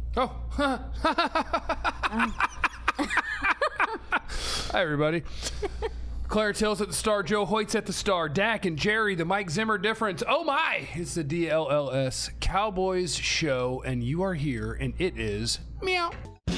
Oh. Hi, everybody. Clarence Hill's at the Star, Joe Hoyt's at the Star, Dak and Jerry, the Mike Zimmer difference. Oh my! It's the DLLS Cowboys show, and you are here, and it is meow.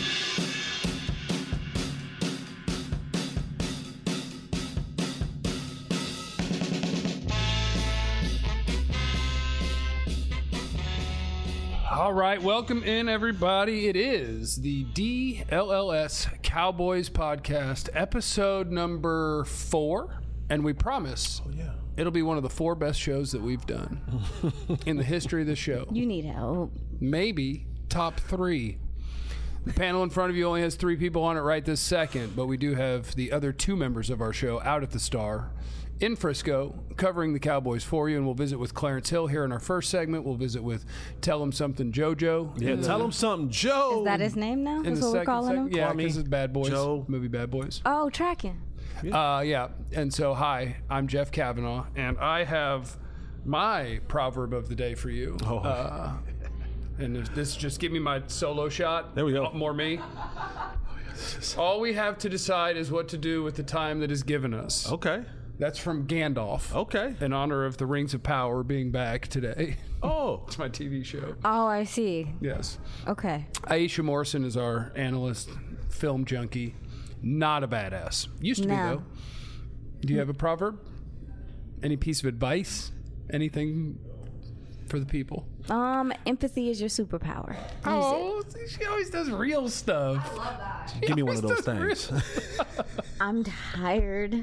All right, welcome in, everybody. It is the DLLS Cowboys podcast, episode number 4, and we promise it'll be one of the 4 best shows that we've done in the history of the show. You need help. Maybe top 3. The panel in front of you only has 3 people on it right this second, but we do have the other 2 members of our show out at the Star in Frisco, covering the Cowboys for you, and we'll visit with Clarence Hill here in our first segment. We'll visit with Tell Him Something JoJo. Yeah, Tell Him Something Joe. Is that his name now? In That's the what we're second calling segment. him? Yeah, because it's Bad Boys. Joe. Movie Bad Boys. Oh, tracking. Yeah. And so, hi, I'm Jeff Kavanaugh, and I have my proverb of the day for you. And this just give me my solo shot. There we go. More me. All we have to decide is what to do with the time that is given us. Okay. That's from Gandalf. Okay. In honor of the Rings of Power being back today. Oh. It's my TV show. Oh, I see. Yes. Okay. Aisha Morrison is our analyst, film junkie. Not a badass. Used to be, though. Do you have a proverb? Any piece of advice? Anything for the people? Empathy is your superpower. She always does real stuff. I love that. Give me one of those things. I'm tired.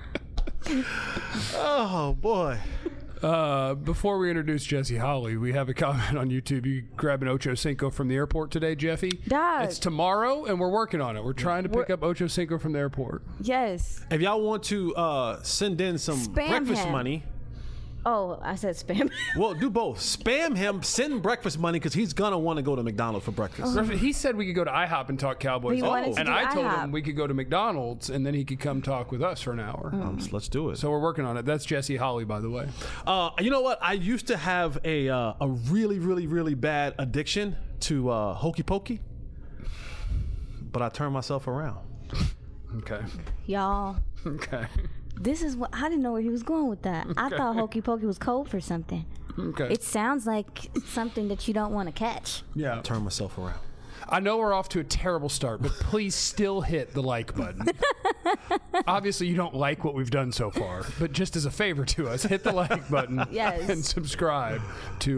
Oh, boy. Before we introduce Jesse Holly, we have a comment on YouTube. You grab an Ocho Cinco from the airport today, Jeffy? Dog. It's tomorrow, and we're working on it. We're trying to pick up Ocho Cinco from the airport. Yes. If y'all want to send in some Spam breakfast him. money, Oh, I said spam. well, do both. Spam him, send breakfast money, because he's going to want to go to McDonald's for breakfast. He said we could go to IHOP and talk Cowboys. He wanted to and do I told IHOP. him we could go to McDonald's, and then he could come talk with us for an hour. Let's do it. So we're working on it. That's Jesse Holly, by the way. You know what? I used to have a really, really, really bad addiction to Hokey Pokey, but I turned myself around. Okay. Y'all, Okay. this is what I didn't know where he was going with that. I thought Hokey Pokey was code for something. Okay. It sounds like something that you don't want to catch. Yeah. Turn myself around. I know we're off to a terrible start, but please still hit the like button. Obviously, you don't like what we've done so far, but just as a favor to us, hit the like button Yes. and subscribe to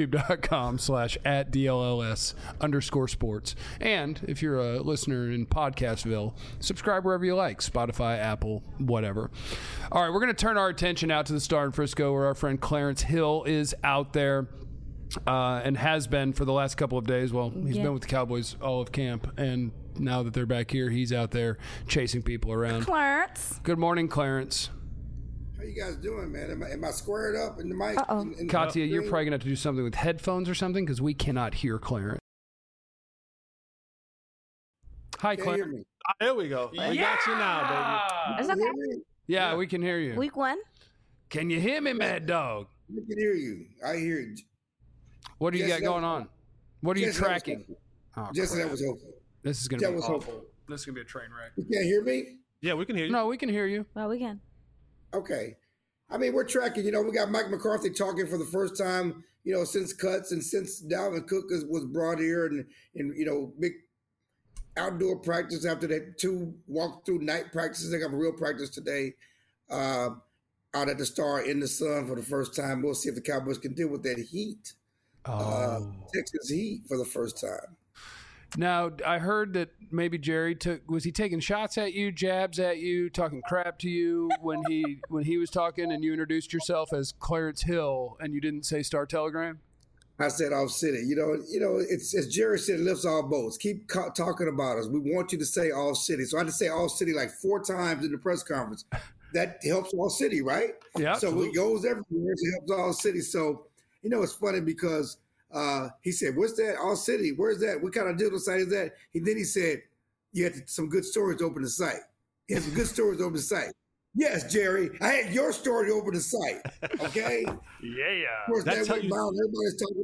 youtube.com/@DLLS_sports. And if you're a listener in Podcastville, subscribe wherever you like, Spotify, Apple, whatever. All right, we're going to turn our attention out to the Star in Frisco, where our friend Clarence Hill is out there. And has been for the last couple of days. Well, he's been with the Cowboys all of camp, and now that they're back here, he's out there chasing people around. Clarence. Good morning, Clarence. How you guys doing, man? Am I squared up in the mic? In Katya, the you're screen? probably going to have to do something with headphones or something because we cannot hear Clarence. Hi, Can't hear Clarence. me. There we go. We got you now, It's Can you okay. hear me? Yeah, we can hear you. Week 1. Can you hear me, Mad Dog? We can hear you. I hear you. What do you Yes, got going on? What are you Yes, that was tracking? hopeful. Oh, Just crap. that was hopeful. This is going that to be was awful. hopeful. This is going to be a train wreck. You can't hear me? baby. Yeah, we can hear you. No, we can hear you. Well, we can. Okay. I mean, we're tracking. We got Mike McCarthy talking for the first time, since cuts and since Dalvin Cook was brought here and big outdoor practice after that 2 walk-through night practices. They got a real practice today out at the Star in the sun for the first time. We'll see if the Cowboys can deal with that heat. Texas heat for the first time. Now, I heard that maybe Jerry was he taking shots at you, jabs at you, talking crap to you when he was talking and you introduced yourself as Clarence Hill and you didn't say Star Telegram? I said off city. It's as Jerry said, it lifts all boats. Keep talking about us. We want you to say all city. So I had to say all city like 4 times in the press conference. That helps all city, right? Yeah. So Absolutely. it goes everywhere. It helps all city. So, it's funny because he said, what's that? All city. Where's that? What kind of digital site is that? Then he said, you had some good stories to open the site. He had some good stories to open the site. Yes, Jerry. I had your story to open the site. Okay? Yeah. Of course, That's that how went you- viral. Everybody's talking.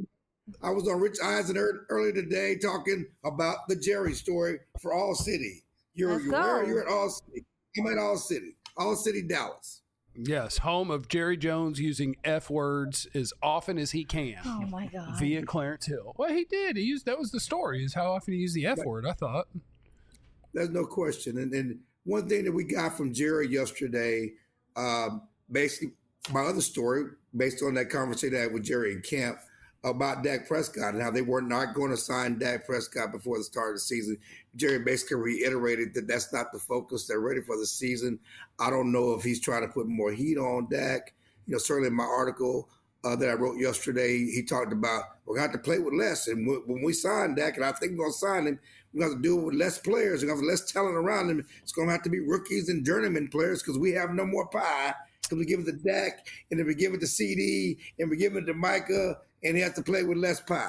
I was on Rich Eisen earlier today talking about the Jerry story for All City. You're at All City. I'm at All City. All City, Dallas. Yes, home of Jerry Jones using F words as often as he can. Oh my God. Via Clarence Hill. Well, he did. That was the story, is how often he used the F word, I thought. There's no question. And one thing that we got from Jerry yesterday, basically my other story, based on that conversation I had with Jerry in camp about Dak Prescott and how they were not going to sign Dak Prescott before the start of the season. Jerry basically reiterated that that's not the focus. They're ready for the season. I don't know if he's trying to put more heat on Dak. Certainly in my article that I wrote yesterday, he talked about we're going to have to play with less. And when we sign Dak, and I think we're going to sign him, we're going to have to do it with less players. We're going to have less talent around him. It's going to have to be rookies and journeyman players because we have no more pie. Because we give it to Dak, and then we give it to CD, and we give it to Micah, and he has to play with less pie.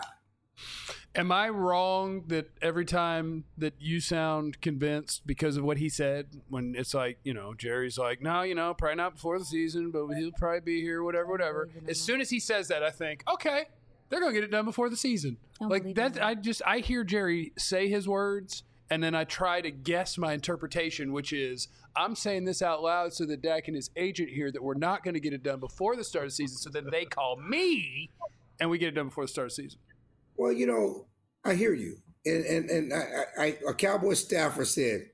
Am I wrong that every time that you sound convinced because of what he said, when it's like, Jerry's like, no, probably not before the season, but he'll probably be here, whatever. As soon as he says that, I think, okay, they're going to get it done before the season. Like that, I hear Jerry say his words, and then I try to guess my interpretation, which is I'm saying this out loud so that Dak and his agent hear that we're not going to get it done before the start of the season, so then they call me and we get it done before the start of the season. Well, I hear you. And a Cowboy staffer said,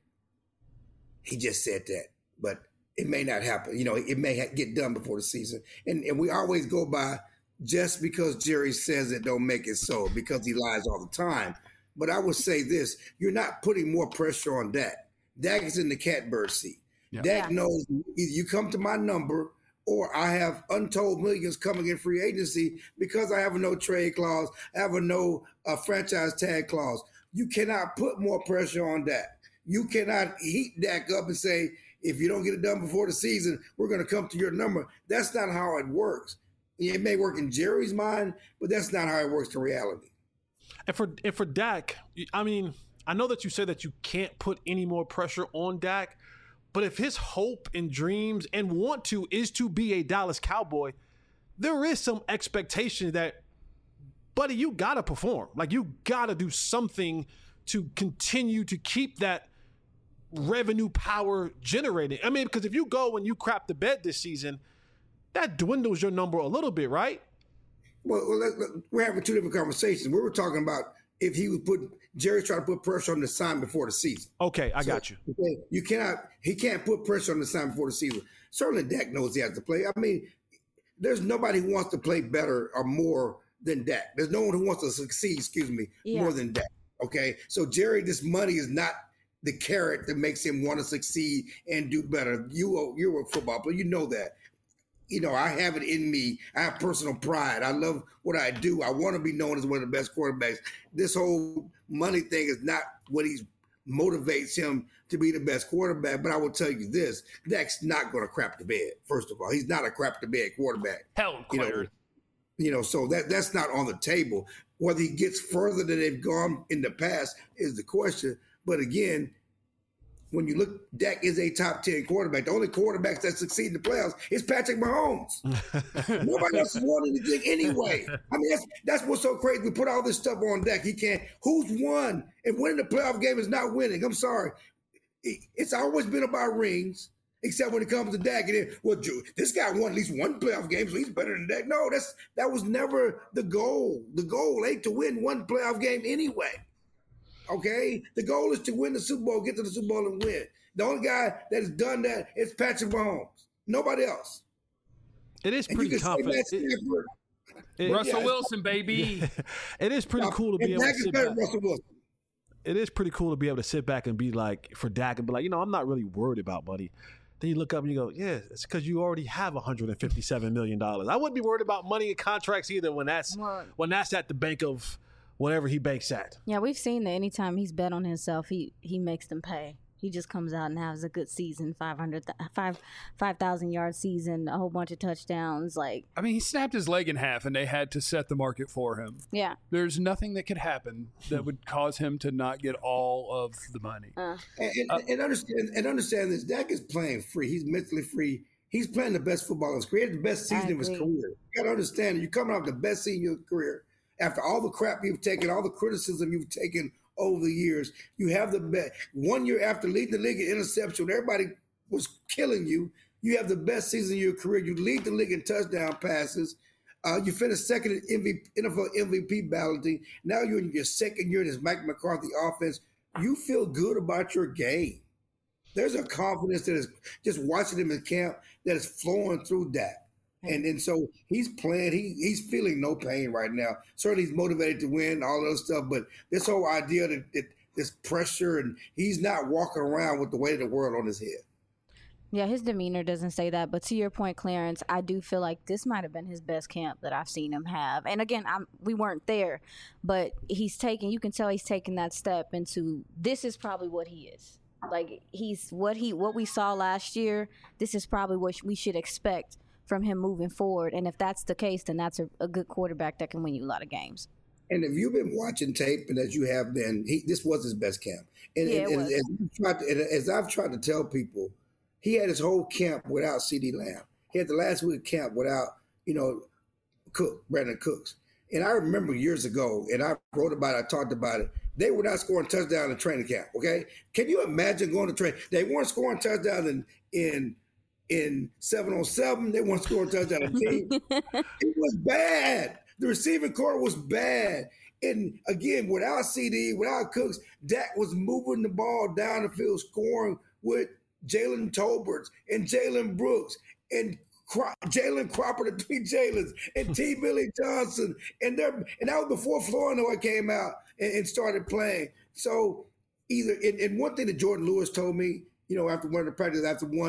he just said that, but it may not happen. It may get done before the season. And we always go by just because Jerry says it don't make it so, because he lies all the time. But I would say this, you're not putting more pressure on Dak. Dak is in the catbird seat. Yeah. Dak knows either you come to my number or I have untold millions coming in free agency because I have a no trade clause, I have a no franchise tag clause. You cannot put more pressure on Dak. You cannot heat Dak up and say, if you don't get it done before the season, we're going to come to your number. That's not how it works. It may work in Jerry's mind, but that's not how it works in reality. And for Dak, I mean, I know that you said that you can't put any more pressure on Dak, but if his hope and dreams and want to is to be a Dallas Cowboy, there is some expectation that, buddy, you got to perform. Like, you got to do something to continue to keep that revenue power generating. I mean, because if you go and you crap the bed this season, that dwindles your number a little bit, right? Well, we're having two different conversations. We were talking about if he was Jerry's trying to put pressure on the sign before the season. Okay, I got you. He can't put pressure on the sign before the season. Certainly Dak knows he has to play. I mean, there's nobody who wants to play better or more than Dak. There's no one who wants to succeed, more than Dak. Okay? So Jerry, this money is not the carrot that makes him want to succeed and do better. You're a football player. You know that. I have it in me. I have personal pride. I love what I do. I want to be known as one of the best quarterbacks. This whole money thing is not what motivates him to be the best quarterback. But I will tell you this, Dak's not going to crap the bed, first of all. He's not a crap the bed quarterback. Hell, so that's not on the table. Whether he gets further than they've gone in the past is the question. But again, when you look, Dak is a top 10 quarterback. The only quarterbacks that succeed in the playoffs is Patrick Mahomes. Nobody else has won anything anyway. I mean, that's what's so crazy. We put all this stuff on Dak. He can't. Who's won? And winning the playoff game is not winning. I'm sorry. It's always been about rings, except when it comes to Dak. And this guy won at least one playoff game, so he's better than Dak. No, that was never the goal. The goal ain't to win one playoff game anyway. Okay? The goal is to win the Super Bowl, get to the Super Bowl and win. The only guy that has done that is Patrick Mahomes. Nobody else. It is pretty confident. Russell Wilson, baby. It is pretty cool to be able to sit back. Russell Wilson. It is pretty cool to be able to sit back and be like, for Dak, and be like, I'm not really worried about money. Then you look up and you go, yeah, it's because you already have $157 million. I wouldn't be worried about money and contracts either when that's at the bank of whatever he banks at. Yeah, we've seen that anytime he's bet on himself, he makes them pay. He just comes out and has a good season, 5,000 yard season, a whole bunch of touchdowns. He snapped his leg in half, and they had to set the market for him. Yeah, there's nothing that could happen that would cause him to not get all of the money. And understand this: Dak is playing free. He's mentally free. He's playing the best football in his career. He had the best season of his career. You got to understand it. You're coming off the best season of your career. after all the crap you've taken, all the criticism you've taken over the years, you have the best. 1 year after leading the league in interception, when everybody was killing you, you have the best season of your career. You lead the league in touchdown passes. You finished second in NFL MVP balloting. Now you're in your second year in this Mike McCarthy offense. You feel good about your game. There's a confidence that is just watching him in camp that is flowing through Dak. And so he's playing. He's feeling no pain right now. Certainly he's motivated to win, all that stuff. But this whole idea that this pressure, and he's not walking around with the weight of the world on his head. Yeah, his demeanor doesn't say that. But to your point, Clarence, I do feel like this might have been his best camp that I've seen him have. And again, we weren't there, but you can tell he's taking that step into, this is probably what he is. Like, what we saw last year, this is probably what we should expect from him moving forward. And if that's the case, then that's a good quarterback that can win you a lot of games. And if you've been watching tape, and as you have been, this was his best camp. As I've tried to tell people, he had his whole camp without CeeDee Lamb. He had the last week of camp without, Brandon Cooks. And I remember years ago, and I wrote about it, I talked about it, they were not scoring touchdowns in training camp, okay? Can you imagine going to train? They weren't scoring touchdowns in 7-on-7. They weren't scoring touchdowns in team. It was bad. The receiving core was bad. And again, without CD, without Cooks, Dak was moving the ball down the field, scoring with Jalen Tolbert and Jalen Brooks and Jalen Cropper, the three Jalens, and T. Billy Johnson. And that was before Flournoy came out and started playing. So and one thing that Jordan Lewis told me, after one of the practices,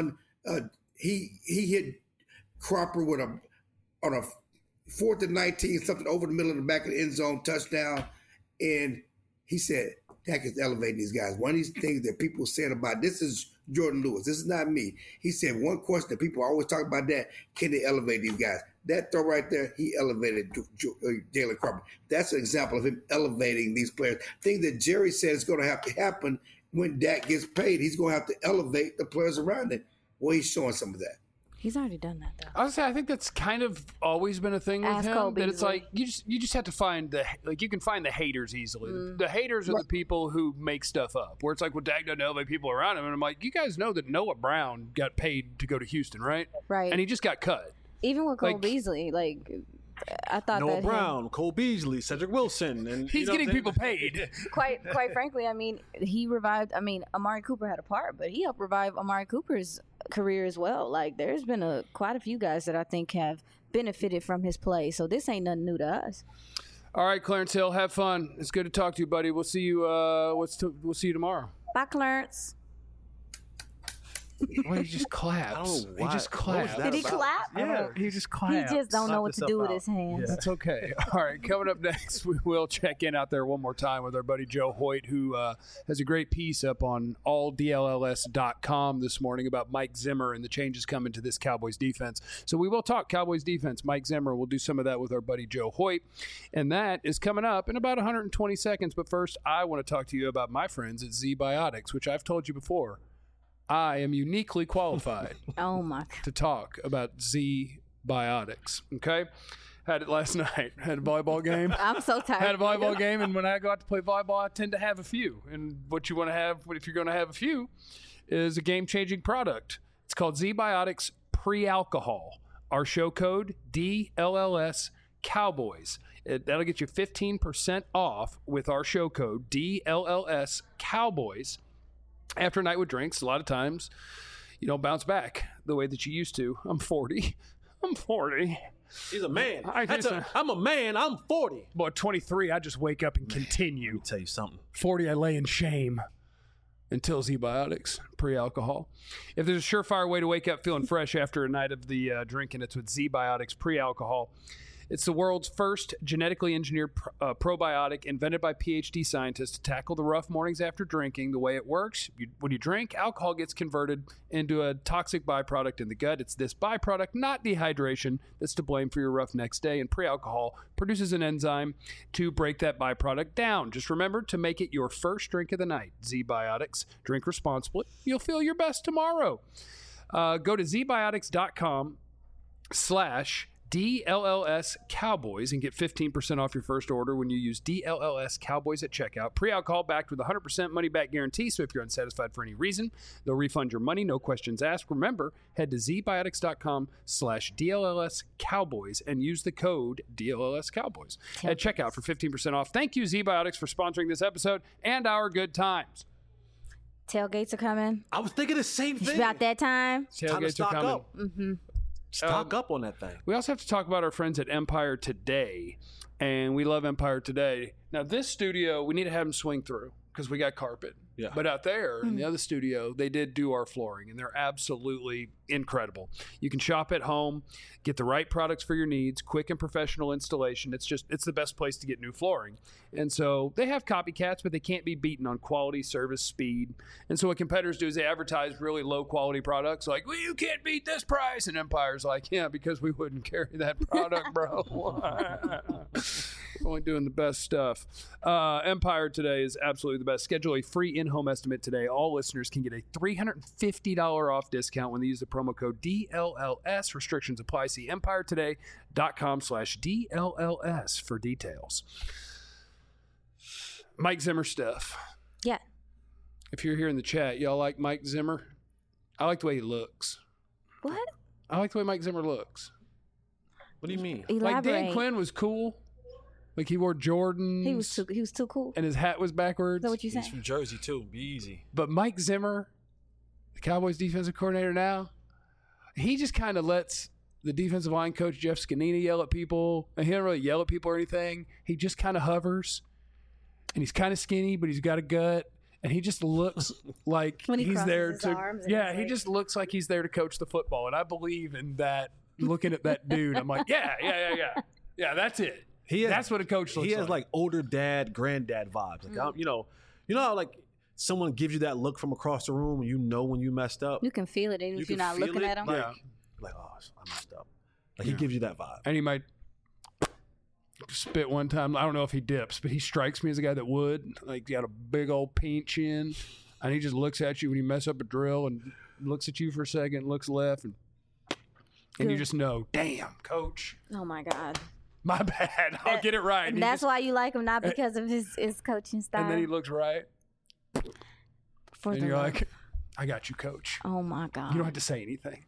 he hit Cropper on a 4th and 19, something over the middle of the back of the end zone touchdown. And he said, Dak is elevating these guys. One of these things that people said about this is Jordan Lewis. This is not me. He said one question that people always talk about that, can they elevate these guys? That throw right there, he elevated Jalen Cropper. That's an example of him elevating these players. Thing that Jerry said is going to have to happen when Dak gets paid. He's going to have to elevate the players around him. Well, he's showing some of that. He's already done that, though. I was gonna say, I think that's kind of always been a thing with him. Cole that it's Beasley. like you just have to find you can find the haters easily. The haters are the people who make stuff up. Where it's like, well, Dak doesn't elevate people around him, and I'm like, you guys know that Noah Brown got paid to go to Houston, right? Right. And he just got cut. Even with Cole Beasley, I thought Noah that Brown, Cole Beasley, Cedric Wilson, and he's getting people paid. Quite frankly, he revived. Amari Cooper had a part, but he helped revive Amari Cooper's career as well. Like, there's been quite a few guys that I think have benefited from his play. So this ain't nothing new to us. All right, Clarence Hill, have fun. It's good to talk to you, buddy. We'll see you. We'll see you tomorrow. Bye, Clarence. Well, he just claps. I don't know why. He just claps. Did he clap? Yeah, he just claps. He just don't know what to Knock do with yourself his hands. That's okay. All right, coming up next, we will check in out there one more time with our buddy Joe Hoyt, who has a great piece up on alldlls.com this morning about Mike Zimmer and the changes coming to this Cowboys defense. So we will talk Cowboys defense. Mike Zimmer, we'll do some of that with our buddy Joe Hoyt. And that is coming up in about 120 seconds. But first, I want to talk to you about my friends at Z-Biotics, which I've told you before. I am uniquely qualified to talk about Z-Biotics, okay? Had it last night. Had a volleyball game. I'm so tired. Had a volleyball game, and when I go out to play volleyball, I tend to have a few. And what you want to have, if you're going to have a few, is a game-changing product. It's called Z-Biotics Pre-Alcohol. Our show code, DLLS Cowboys. That'll get you 15% off with our show code, DLLS Cowboys. After a night with drinks, a lot of times you don't bounce back the way that you used to. I'm 40. He's a man. I'm a man. I'm 40. Boy, 23, I just wake up and continue. Let me tell you something. 40, I lay in shame until Z-Biotics, pre-alcohol. If there's a surefire way to wake up feeling fresh after a night of the drinking, it's with Z-Biotics, pre-alcohol. It's the world's first genetically engineered probiotic invented by PhD scientists to tackle the rough mornings after drinking. The way it works, when you drink, alcohol gets converted into a toxic byproduct in the gut. It's this byproduct, not dehydration, that's to blame for your rough next day. And pre-alcohol produces an enzyme to break that byproduct down. Just remember to make it your first drink of the night. Z-Biotics. Drink responsibly. You'll feel your best tomorrow. Go to zbiotics.com/ DLLS Cowboys and get 15% off your first order when you use DLLS Cowboys at checkout. Pre-alcohol backed with a 100% money-back guarantee, so if you're unsatisfied for any reason, they'll refund your money, no questions asked. Remember, head to zbiotics.com/DLLS Cowboys and use the code DLLS Cowboys at checkout for 15% off. Thank you, ZBiotics, for sponsoring this episode and our good times. Tailgates are coming. I was thinking the same It's thing. about that time. Time to Tailgates are stock coming. up. Stock up on that thing. We also have to talk about our friends at Empire Today, and we love Empire Today. Now, this studio, we need to have them swing through because we got carpet. Yeah. But out there in the other studio, they did do our flooring, and they're absolutely incredible. You can shop at home, get the right products for your needs, quick and professional installation. It's the best place to get new flooring. And so they have copycats, but they can't be beaten on quality, service, speed. And so what competitors do is they advertise really low quality products like, well, you can't beat this price. And Empire's like, yeah, because we wouldn't carry that product, bro. We're only doing the best stuff. Empire Today is absolutely the best. Schedule a free in-home estimate today. All listeners can get a $350 off discount when they use the promo code DLLS. Restrictions apply. See EmpireToday.com/DLLS for details. Mike Zimmer stuff. Yeah. If you're here in the chat, y'all like Mike Zimmer? I like the way he looks. What? I like the way Mike Zimmer looks. What do you mean? Elaborate. Like Dan Quinn was cool. Like he wore Jordans. He was too cool. And his hat was backwards. Is that what you He's saying? from Jersey too. Be easy. But Mike Zimmer, the Cowboys defensive coordinator now, he just kind of lets the defensive line coach Jeff Scanini yell at people. And he doesn't really yell at people or anything. He just kind of hovers. And he's kind of skinny, but he's got a gut. And he just looks like When he he's crosses there his to. arms and Yeah, he's he like- just looks like he's there to coach the football. And I believe in that. Looking at that dude, I'm like, yeah. Yeah, that's it. That's what a coach looks like. He has like older dad, granddad vibes. Like you know how like someone gives you that look from across the room and you know when you messed up. You can feel it even You if you're can not feel looking it, at him. Like, Yeah. like oh, I messed up. Like he gives you that vibe. And he might spit one time. I don't know if he dips, but he strikes me as a guy that would. Like, he got a big old paint chin, and he just looks at you when you mess up a drill and looks at you for a second, looks left, and you Good. just know, damn, coach, Oh my God. my bad. I'll get it right. And he that's just- why you like him, not because of his coaching style. And then he looks right, For and the you're love. like, I got you, coach. Oh my God. You don't have to say anything.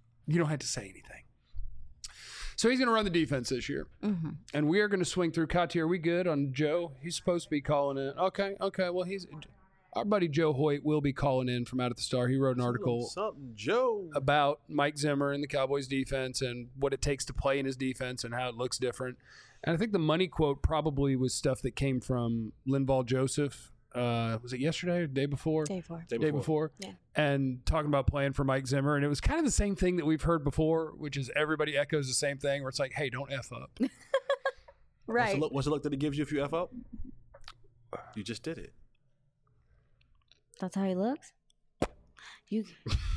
So he's going to run the defense this year. Mm-hmm. And we are going to swing through. Kati, are we good on Joe? He's supposed to be calling in. Okay. Well, our buddy Joe Hoyt will be calling in from Out at the Star. He wrote an article Something, Joe. about Mike Zimmer and the Cowboys defense and what it takes to play in his defense and how it looks different. And I think the money quote probably was stuff that came from Linval Joseph. Was it yesterday or the day before? Day 4. Day before. Yeah. And talking about playing for Mike Zimmer. And it was kind of the same thing that we've heard before, which is everybody echoes the same thing where it's like, hey, don't F up. Right. What's the look that he gives you if you F up? You just did it. That's how he looks? You.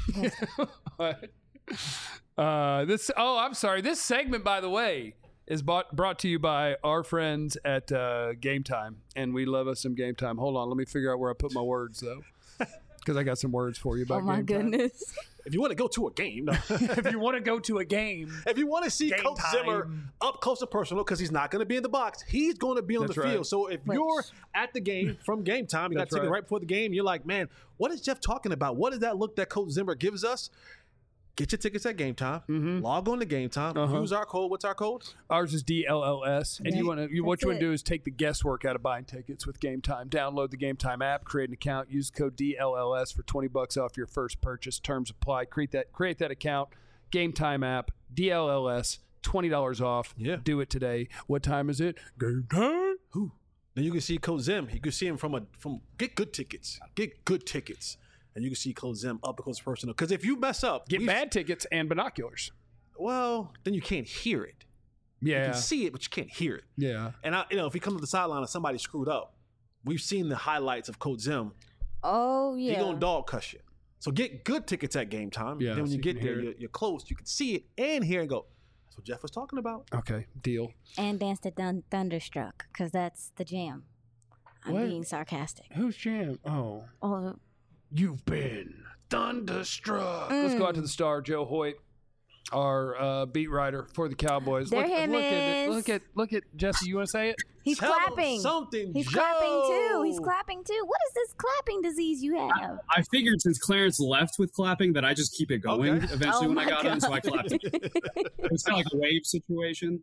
I'm sorry. This segment, by the way, is brought to you by our friends at Game Time, and we love us some Game Time. Hold on, let me figure out where I put my words though, because I got some words for you about Oh my Game Time. goodness. If you want to go to a game, no. If you want to go to a game, If you want to see Game Coach time. Zimmer up close and personal, because he's not going to be in the box, he's going to be on That's the right. field. So if Which- you're at the game from Game Time, you got That's ticket right. right before the game, you're like, man, what is Jeff talking about? What is that look that Coach Zimmer gives us? Get your tickets at Game Time. Log on to Game Time. Use our code. What's our code? ours is DLLS, and Yeah. what That's you want to it. do is take the guesswork out of buying tickets with Game Time. Download the Game Time app, create an account, use the code DLLS for $20 off your first purchase. Terms apply. Create that account. Game Time app, DLLS, $20 off. Yeah. Do it today. What time is it? Game time. Who? Then you can see Coach Zim. You can see him from get good tickets. Get good tickets. And you can see Coach Zim up close and personal. Because if you mess up, Get bad tickets and binoculars. well, then you can't hear it. You Yeah. can see it, but you can't hear it. Yeah. And if he comes to the sideline and somebody screwed up, we've seen the highlights of Coach Zim. Oh, yeah. He gonna dog cuss you. So get good tickets at Game Time. Yeah, Then when so you you get can there, hear you're close. You can see it and hear and go, that's what Jeff was talking about. Okay. Deal. And Dance to Thunderstruck, because that's the jam. I'm What? being sarcastic. Who's Jam? Oh. Oh, You've been thunderstruck. Let's go out to the Star, Joe Hoyt. our beat writer for the Cowboys. There him is. Look at Jesse. You want to say it? He's Tell him clapping. something, He's Joe. clapping too. He's clapping too. What is this clapping disease you have? I figured since Clarence left with clapping that I just keep it going Okay. eventually Oh when I my got on, so I clapped. It's kind of like a wave situation.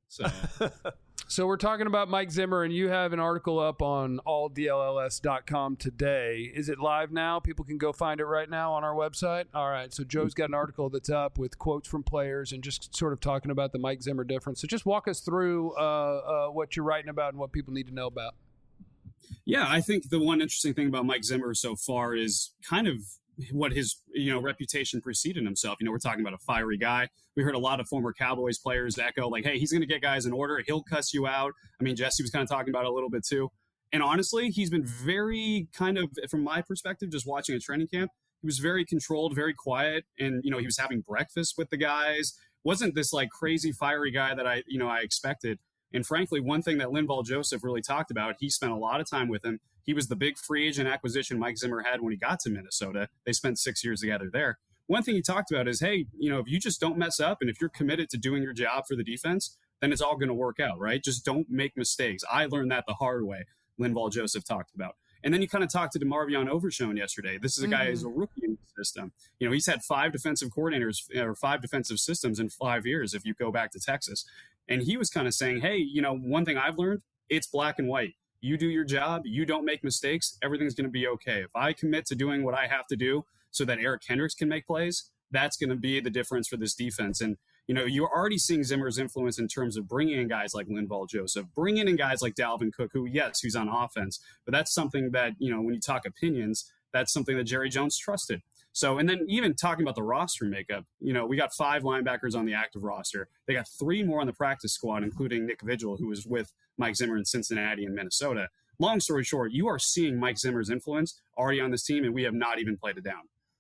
So we're talking about Mike Zimmer, and you have an article up on alldlls.com today. Is it live now? People can go find it right now on our website. All right. So Joe's got an article that's up with quotes from players and just sort of talking about the Mike Zimmer difference. So just walk us through what you're writing about and what people need to know about. Yeah, I think the one interesting thing about Mike Zimmer so far is kind of what his reputation preceded himself. We're talking about a fiery guy. We heard a lot of former Cowboys players echo like, hey, he's going to get guys in order. He'll cuss you out. I mean, Jesse was kind of talking about it a little bit too. And honestly, he's been very kind of, from my perspective, just watching a training camp, he was very controlled, very quiet. And, he was having breakfast with the guys. Wasn't this like crazy fiery guy that I expected. And frankly, one thing that Linval Joseph really talked about, he spent a lot of time with him. He was the big free agent acquisition Mike Zimmer had when he got to Minnesota. They spent 6 years together there. One thing he talked about is, hey, if you just don't mess up and if you're committed to doing your job for the defense, then it's all going to work out, right? Just don't make mistakes. I learned that the hard way, Linval Joseph talked about. And then you kind of talked to DeMarvion Overshown yesterday. This is a guy who's a rookie in the system. He's had 5 defensive coordinators or 5 defensive systems in 5 years if you go back to Texas. And he was kind of saying, hey, one thing I've learned, it's black and white. You do your job, you don't make mistakes, everything's going to be okay. If I commit to doing what I have to do so that Eric Kendricks can make plays, that's going to be the difference for this defense. And, you're already seeing Zimmer's influence in terms of bringing in guys like Linval Joseph, bringing in guys like Dalvin Cook, who, yes, he's on offense, but that's something that, when you talk opinions, that's something that Jerry Jones trusted. So, and then even talking about the roster makeup, we got 5 linebackers on the active roster. They got 3 more on the practice squad, including Nick Vigil, who was with Mike Zimmer in Cincinnati and Minnesota. Long story short, you are seeing Mike Zimmer's influence already on this team, and we have not even played it down.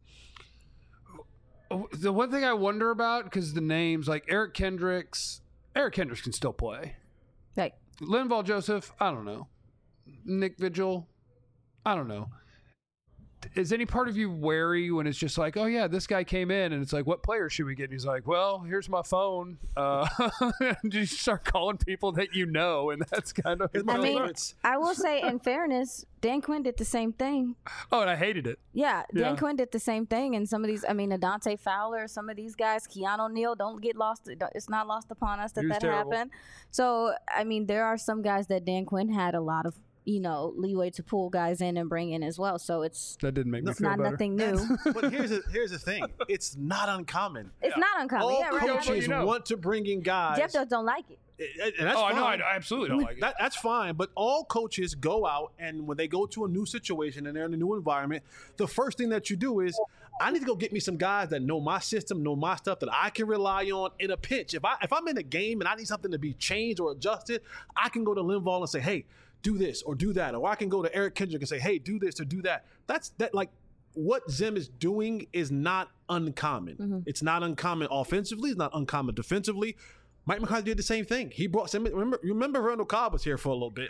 The one thing I wonder about, because the names like Eric Kendricks can still play. Like Linval Joseph, I don't know. Nick Vigil, I don't know. Is any part of you wary when it's just like, oh yeah, this guy came in and it's like, what player should we get? And he's like, well, here's my phone. You start calling people that and that's kind of. I will say, in fairness, Dan Quinn did the same thing. Oh, and I hated it. Yeah, Dan Quinn did the same thing. And some of these, Adante Fowler, some of these guys, Keanu Neal, don't get lost. It's not lost upon us that happened. So, there are some guys that Dan Quinn had a lot of leeway to pull guys in and bring in as well. So that didn't make me feel not better. Nothing new. But here's the thing. It's not uncommon. It's not uncommon. All Yeah, right. coaches want to bring in guys. Jeff just don't like it. And that's fine. No, I absolutely don't like it. That's fine. But all coaches go out, and when they go to a new situation and they're in a new environment, the first thing that you do is, I need to go get me some guys that know my system, know my stuff, that I can rely on in a pinch. If I'm in a game and I need something to be changed or adjusted, I can go to Linval and say, hey, do this or do that. Or I can go to Eric Kendrick and say, hey, do this or do that. What Zim is doing is not uncommon. Mm-hmm. It's not uncommon offensively. It's not uncommon defensively. Mike McCarthy did the same thing. He brought some. Remember Randall Cobb was here for a little bit.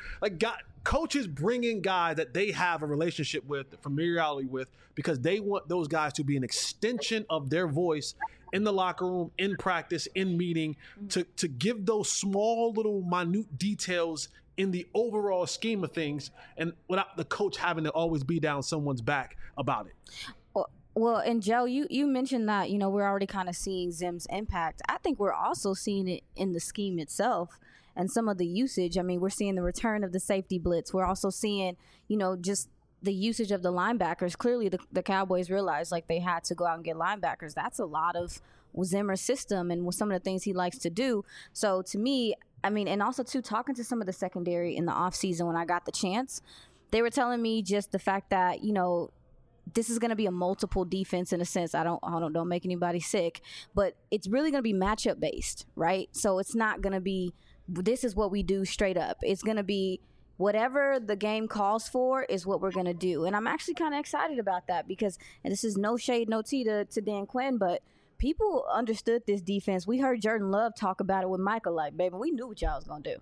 Coaches bring in guys that they have a relationship with, familiarity with, because they want those guys to be an extension of their voice in the locker room, in practice, in meeting, to give those small little minute details in the overall scheme of things, and without the coach having to always be down someone's back about it. Well, and Joe, you mentioned that, we're already kind of seeing Zim's impact. I think we're also seeing it in the scheme itself and some of the usage. We're seeing the return of the safety blitz. We're also seeing, just the usage of the linebackers. Clearly, the Cowboys realized they had to go out and get linebackers. That's a lot of Zimmer's system and some of the things he likes to do. So to me, and also too, talking to some of the secondary in the offseason when I got the chance, they were telling me just the fact that, this is going to be a multiple defense in a sense. Don't make anybody sick, but it's really going to be matchup based, right? So it's not going to be, this is what we do straight up. It's going to be whatever the game calls for is what we're going to do. And I'm actually kind of excited about that because, and this is no shade, no tea to Dan Quinn, but people understood this defense. We heard Jordan Love talk about it with Michael, baby, we knew what y'all was going to do.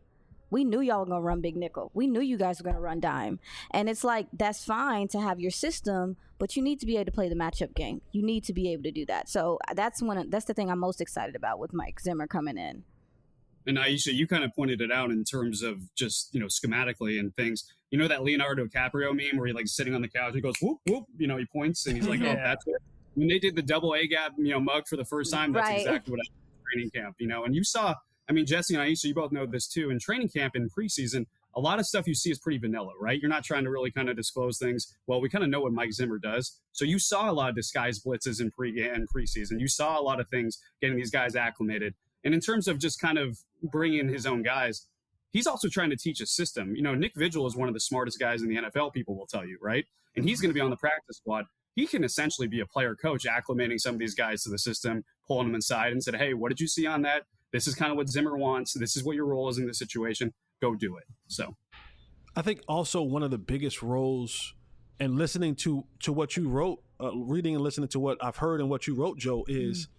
We knew y'all were going to run big nickel. We knew you guys were going to run dime. And it's like, that's fine to have your system, but you need to be able to play the matchup game. You need to be able to do that. So that's the thing I'm most excited about with Mike Zimmer coming in. And Aisha, you kind of pointed it out in terms of just, schematically and things. You know that Leonardo DiCaprio meme where he like sitting on the couch and he goes, whoop, whoop, he points and he's like, oh, that's it. When they did the double A gap, mug for the first time, that's exactly what I did in training camp, and you saw, Jesse and Aisha, you both know this too. In training camp and preseason, a lot of stuff you see is pretty vanilla, right? You're not trying to really kind of disclose things. Well, we kind of know what Mike Zimmer does. So you saw a lot of disguised blitzes in preseason. You saw a lot of things getting these guys acclimated. And in terms of just kind of bringing in his own guys, he's also trying to teach a system. Nick Vigil is one of the smartest guys in the NFL, people will tell you, right? And he's going to be on the practice squad. He can essentially be a player coach, acclimating some of these guys to the system, pulling them inside and said, hey, what did you see on that? This is kind of what Zimmer wants. This is what your role is in this situation. Go do it. So I think also one of the biggest roles, and listening to what you wrote, reading and listening to what I've heard and what you wrote, Joe, is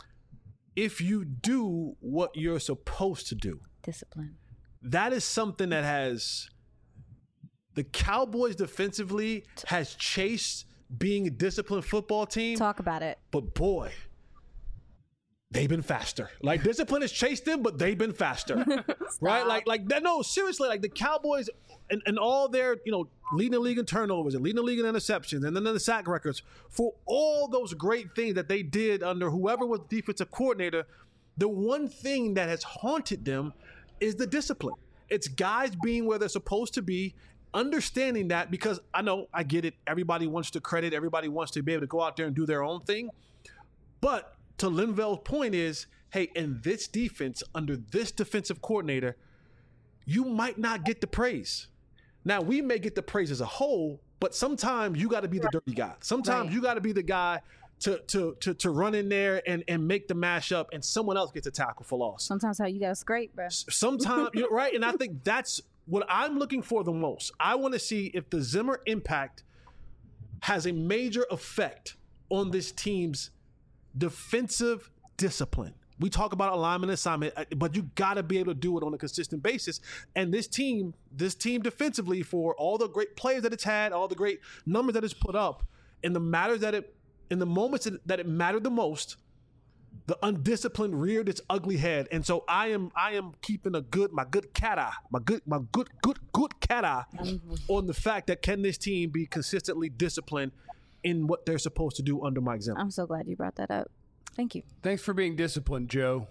if you do what you're supposed to do. Discipline. That is something that has the Cowboys defensively has chased being a disciplined football team. Talk about it. But boy, they've been faster. Like, discipline has chased them, but they've been faster. Right? Like that. No, seriously, like the Cowboys and all their, leading the league in turnovers and leading the league in interceptions and then the sack records, for all those great things that they did under whoever was defensive coordinator, the one thing that has haunted them is the discipline. It's guys being where they're supposed to be, understanding that, because I get it. Everybody wants to credit. Everybody wants to be able to go out there and do their own thing. But to Linval's point is, hey, in this defense, under this defensive coordinator, you might not get the praise. Now, we may get the praise as a whole, but sometimes you got to be the dirty guy. Sometimes you got to be the guy to run in there and make the mashup, and someone else gets a tackle for loss. Sometimes how you got to scrape, bro. Sometimes, right? And I think that's what I'm looking for the most. I want to see if the Zimmer impact has a major effect on this team's defensive discipline. We talk about alignment assignment, but you got to be able to do it on a consistent basis. And this team defensively, for all the great players that it's had, all the great numbers that it's put up, in the moments that it mattered the most, the undisciplined reared its ugly head. And so I am keeping my good cat eye on the fact that can this team be consistently disciplined in what they're supposed to do under Mike Zimmer. I'm so glad you brought that up. Thank you. Thanks for being disciplined, Joe.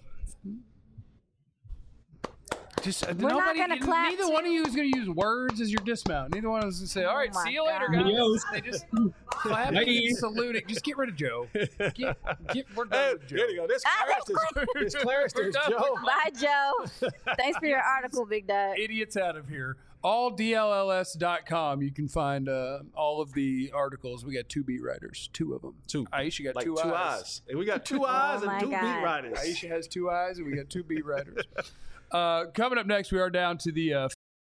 We're not going to clap. Neither one of you is going to use words as your dismount. Neither one of us is going to say, all right, see you later, guys. They just clap and saluting. Just get rid of Joe. We're done with Joe. There you go. This Clarence, Joe. Bye, Joe. Thanks for your article, Big Dad. Idiots out of here. AllDLLS.com. You can find all of the articles. We got 2 beat writers, 2 of them. 2. Aisha got like 2 eyes. And we got 2 eyes and 2 beat writers. Aisha has 2 eyes, and we got 2 beat writers. Coming up next, we are down to the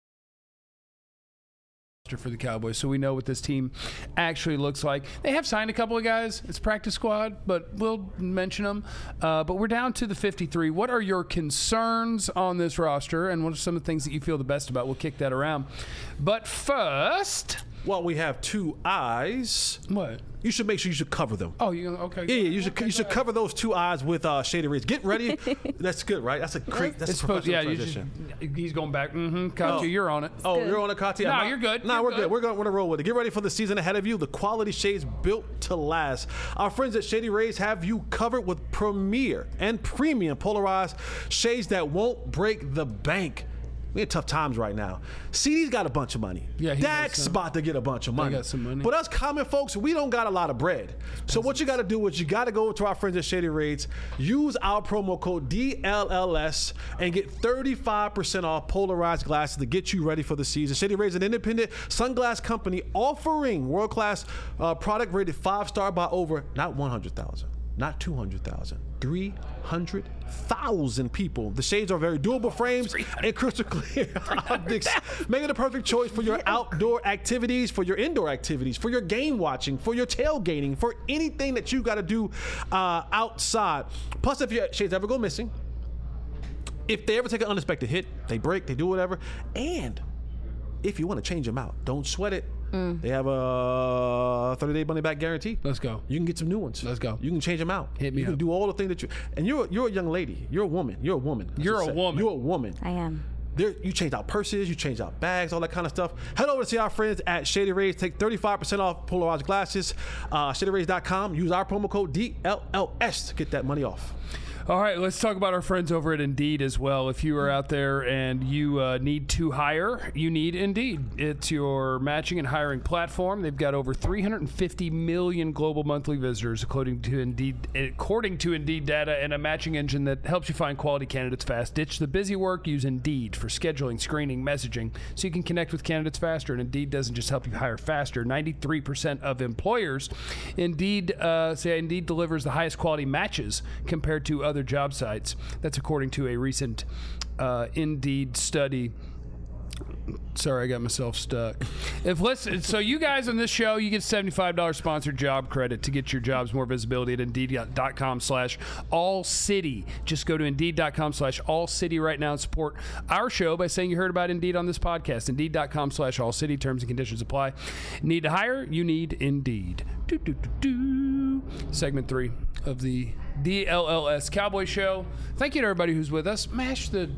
for the Cowboys, so we know what this team actually looks like. They have signed a couple of guys. It's practice squad, but we'll mention them. But we're down to the 53. What are your concerns on this roster, and what are some of the things that you feel the best about? We'll kick that around. But first... Well, we have 2 eyes. What? You should make sure you should cover them. Oh, okay. Yeah, you should cover those 2 eyes with Shady Rays. Get ready. That's good, right? That's a professional transition. He's going back. Katya, you're on it. Oh, you're on it, Katya. No, you're good. No, we're good. We're going to roll with it. Get ready for the season ahead of you. The quality shades built to last. Our friends at Shady Rays have you covered with premier and premium polarized shades that won't break the bank. We had tough times right now. CD's got a bunch of money. Yeah, Dak's about to get a bunch of money. Got some money. But us common folks, we don't got a lot of bread. So what you got to do is you got to go to our friends at Shady Rays, use our promo code DLLS, and get 35% off polarized glasses to get you ready for the season. Shady Rays is an independent sunglass company offering world-class product rated 5-star by over, not 100,000, not 200,000, 300,000 people. The shades are very durable frames and crystal clear optics, making the perfect choice for your outdoor activities, for your indoor activities, for your game watching, for your tailgating, for anything that you got to do outside. Plus, if your shades ever go missing, if they ever take an unexpected hit, they break, they do whatever. And if you want to change them out, don't sweat it. They have a 30-day money-back guarantee. Let's go. You can get some new ones. Let's go. You can change them out. Hit me You can up. do all the things that you. And you're a young lady. You're a woman. You're a woman. I You're should a say. woman. You're a woman. I am. You change out purses, you change out bags, all that kind of stuff. Head over to see our friends at Shady Rays. Take 35% off polarized glasses. ShadyRays.com. Use our promo code DLLS to get that money off. All right, let's talk about our friends over at Indeed as well. If you are out there and you need to hire, you need Indeed. It's your matching and hiring platform. They've got over 350 million global monthly visitors, according to Indeed data, and a matching engine that helps you find quality candidates fast. Ditch the busy work. Use Indeed for scheduling, screening, messaging, so you can connect with candidates faster. And Indeed doesn't just help you hire faster. 93% of employers say Indeed delivers the highest quality matches compared to other job sites. That's according to a recent Indeed study. Sorry, I got myself stuck. So you guys on this show, you get $75 sponsored job credit to get your jobs more visibility at Indeed.com/allcity. Just go to Indeed.com/allcity right now and support our show by saying you heard about Indeed on this podcast. Indeed.com/allcity. Terms and conditions apply. Need to hire? You need Indeed. Segment 3 of the DLLS Cowboy Show. Thank you to everybody who's with us. Mash the...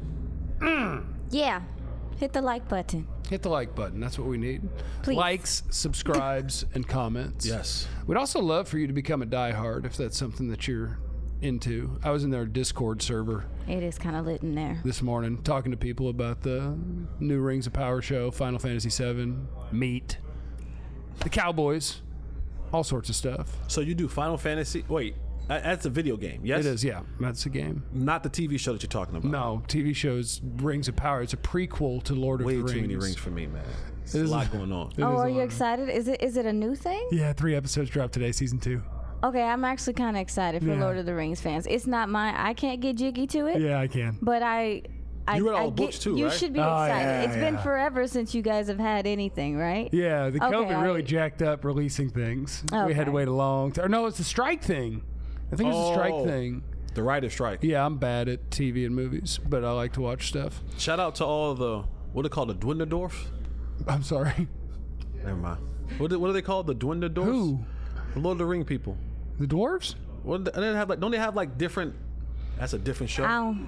Yeah. Hit the like button. Hit the like button. That's what we need. Please. Likes, subscribes, and comments. Yes. We'd also love for you to become a diehard if that's something that you're into. I was in their Discord server It is kind of lit in there. this morning talking to people about the new Rings of Power show, Final Fantasy VII, Meat, the Cowboys, all sorts of stuff. So you do Final Fantasy. Wait, that's a video game, yes? It is, yeah. That's a game. Not the TV show that you're talking about. No, TV shows Rings of Power. It's a prequel to Lord Way of the too Rings. many rings for me, man. There's is- a lot going on. It Oh, is are a you lot. excited? Is it a new thing? Yeah, 3 episodes dropped today, season 2. Okay, I'm actually kind of excited for Yeah. Lord of the Rings fans. It's not I can't get jiggy to it, Yeah, I can. but I You read all I the books get- too, You right? should be Oh, excited. yeah, It's been yeah. forever since you guys have had anything, right? Yeah, the Okay, COVID really I- jacked up releasing things. We had to Okay. wait a long time. No, it's the strike thing. I think it's the strike Oh. thing. The writer's strike. Yeah, I'm bad at TV and movies, but I like to watch stuff. Shout out to all the, what are they called, the Dwindledorf? I'm sorry. Never mind. What are they called, the Dwindledorfs? Who? The Lord of the Ring people. The dwarves? What do they have like? Don't they have like different? That's a different show.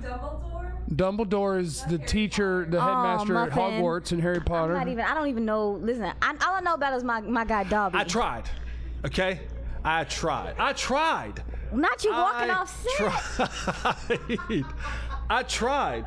Dumbledore is the teacher, the headmaster at Muffin. Hogwarts in Harry Potter. I don't even know. Listen, all I know about is my guy Dobby. I tried. Okay, I tried. Not you walking I off set. tried. I tried.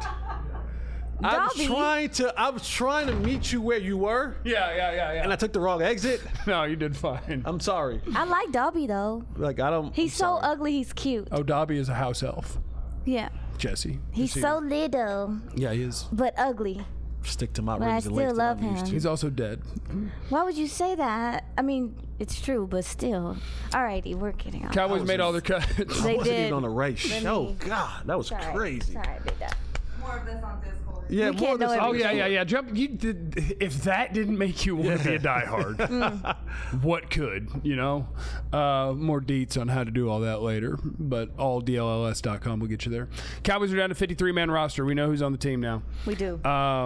Dobby. I was trying to meet you where you were, Yeah. and I took the wrong exit. No, you did fine. I'm sorry. I like Dobby though. Like I don't. He's I'm so sorry. ugly. He's cute. Oh, Dobby is a house elf. Yeah. Jesse. He's Jesse. so little Yeah, he is. but ugly. Stick to my But I rings and still lace love that I'm used him. to. He's also dead. Why would you say that? I mean, it's true, but still. Alrighty, we're getting on. Cowboys made all their cuts. They I wasn't did. even on the race. Let Oh me- God, that was crazy. Sorry, big dog. More of this on Discord. Yeah, We more can't of this- know Oh everything. yeah. Jump. You did. If that didn't make you want to be a diehard, what could? You know. More deets on how to do all that later, but alldlls.com will get you there. Cowboys are down to 53-man roster. We know who's on the team now. We do.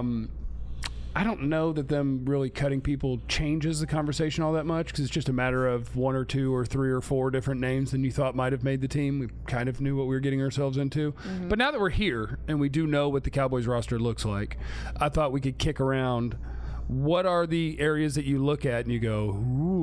I don't know that them really cutting people changes the conversation all that much because it's just a matter of 1 or 2 or 3 or 4 different names than you thought might have made the team. We kind of knew what we were getting ourselves into. But now that we're here and we do know what the Cowboys roster looks like, I thought we could kick around what are the areas that you look at and you go,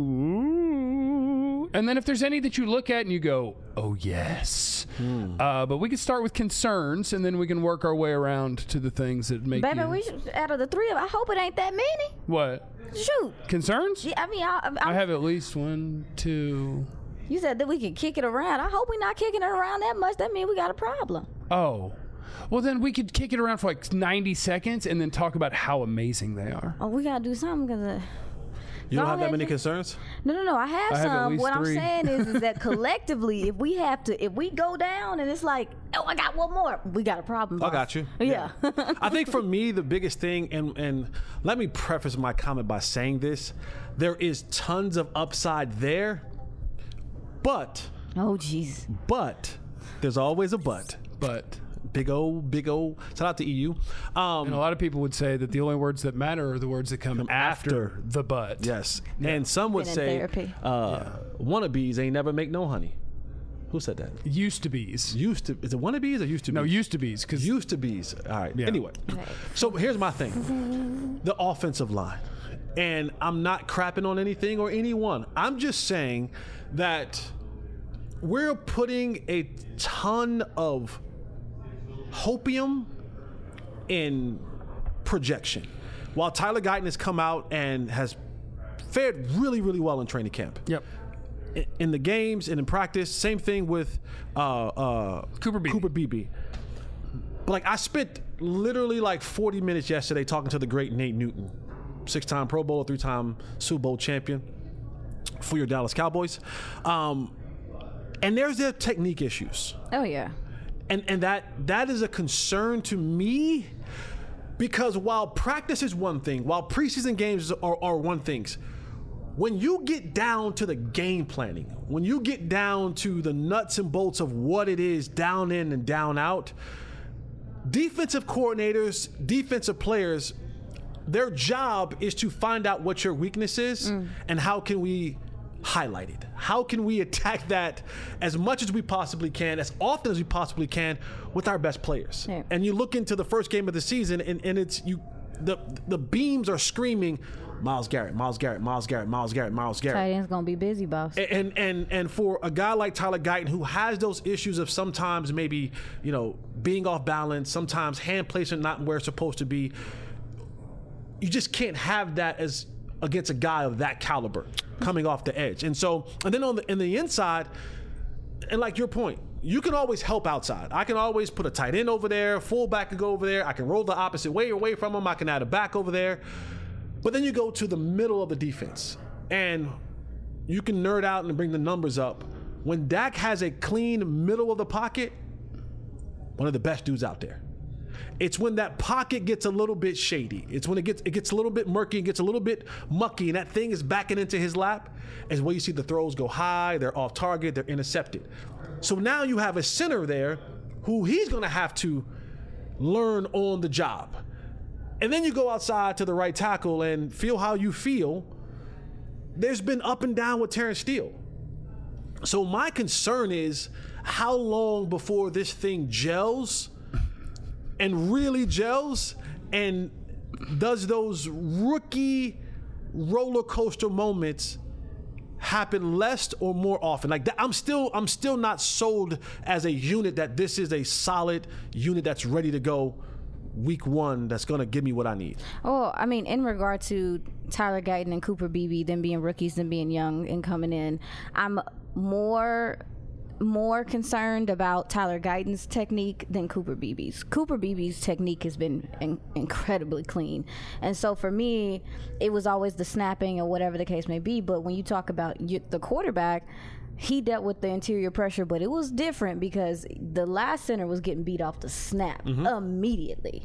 ooh. And then if there's any that you look at and you go, oh, yes. But we can start with concerns and then we can work our way around to the things that make Baby, you... we should, out of the three of us, I hope it ain't that many. What? Shoot. Concerns? Yeah, I mean, I have at least 1, 2. you said that we could kick it around. I hope we're not kicking it around that much. That means we got a problem. Oh. Well, then we could kick it around for like 90 seconds and then talk about how amazing they are. Oh, we got to do something because... You don't Go have that ahead, many Jay. concerns? No. I have I have at some. least What 3. I'm saying is that collectively, if we go down and it's like, oh, I got one more, we got a problem. I boss. got you. Yeah. I think for me, the biggest thing, and let me preface my comment by saying this, there is tons of upside there, but Oh, jeez. there's always a but. But Big O. Shout out to EU. And a lot of people would say that the only words that matter are the words that come after the but. Yes. And some would say wannabes ain't never make no honey. Who said that? Used to be's. Is it wannabes or used to be's? No, used to be's. Used to be's. All right. Yeah. Anyway, so here's my thing. The offensive line. And I'm not crapping on anything or anyone. I'm just saying that we're putting a ton of hopium in projection. While Tyler Guyton has come out and has fared really, really well in training camp. Yep. In the games and in practice, same thing with Cooper Beebe. But like, I spent literally like 40 minutes yesterday talking to the great Nate Newton, 6-time Pro Bowler, 3-time Super Bowl champion for your Dallas Cowboys. And there's their technique issues. Oh yeah. And that is a concern to me, because while practice is one thing, while preseason games are one thing, when you get down to the game planning, when you get down to the nuts and bolts of what it is down in and down out, defensive coordinators, defensive players, their job is to find out what your weakness is and how can we highlight it. How can we attack that as much as we possibly can, as often as we possibly can, with our best players. Yeah. And you look into the first game of the season, and it's the beams are screaming, Myles Garrett. Tight end's gonna be busy, boss. And for a guy like Tyler Guyton, who has those issues of sometimes maybe, being off balance, sometimes hand placement not where it's supposed to be, you just can't have that as against a guy of that caliber coming off the edge. And then in the inside, and like your point, you can always help outside. I can always put a tight end over there, fullback can go over there, I can roll the opposite way away from him, I can add a back over there. But then you go to the middle of the defense, and you can nerd out and bring the numbers up. When Dak has a clean middle of the pocket, one of the best dudes out there. It's when that pocket gets a little bit shady. It's when it gets a little bit murky and gets a little bit mucky, and that thing is backing into his lap, is where you see the throws go high, they're off target, they're intercepted. So now you have a center there who he's going to have to learn on the job. And then you go outside to the right tackle and feel how you feel. There's been up and down with Terrence Steele. So my concern is how long before this thing gels and really gels, and does those rookie roller coaster moments happen less or more often? Like that, I'm still not sold as a unit that this is a solid unit that's ready to go week one, that's going to give me what I need. Oh, I mean, in regard to Tyler Guyton and Cooper Beebe, them being rookies, them being young and coming in, I'm more concerned about Tyler Guyton's technique than Cooper Beebe's. Cooper Beebe's technique has been incredibly clean. And so for me, it was always the snapping or whatever the case may be. But when you talk about the quarterback, he dealt with the interior pressure, but it was different because the last center was getting beat off the snap immediately.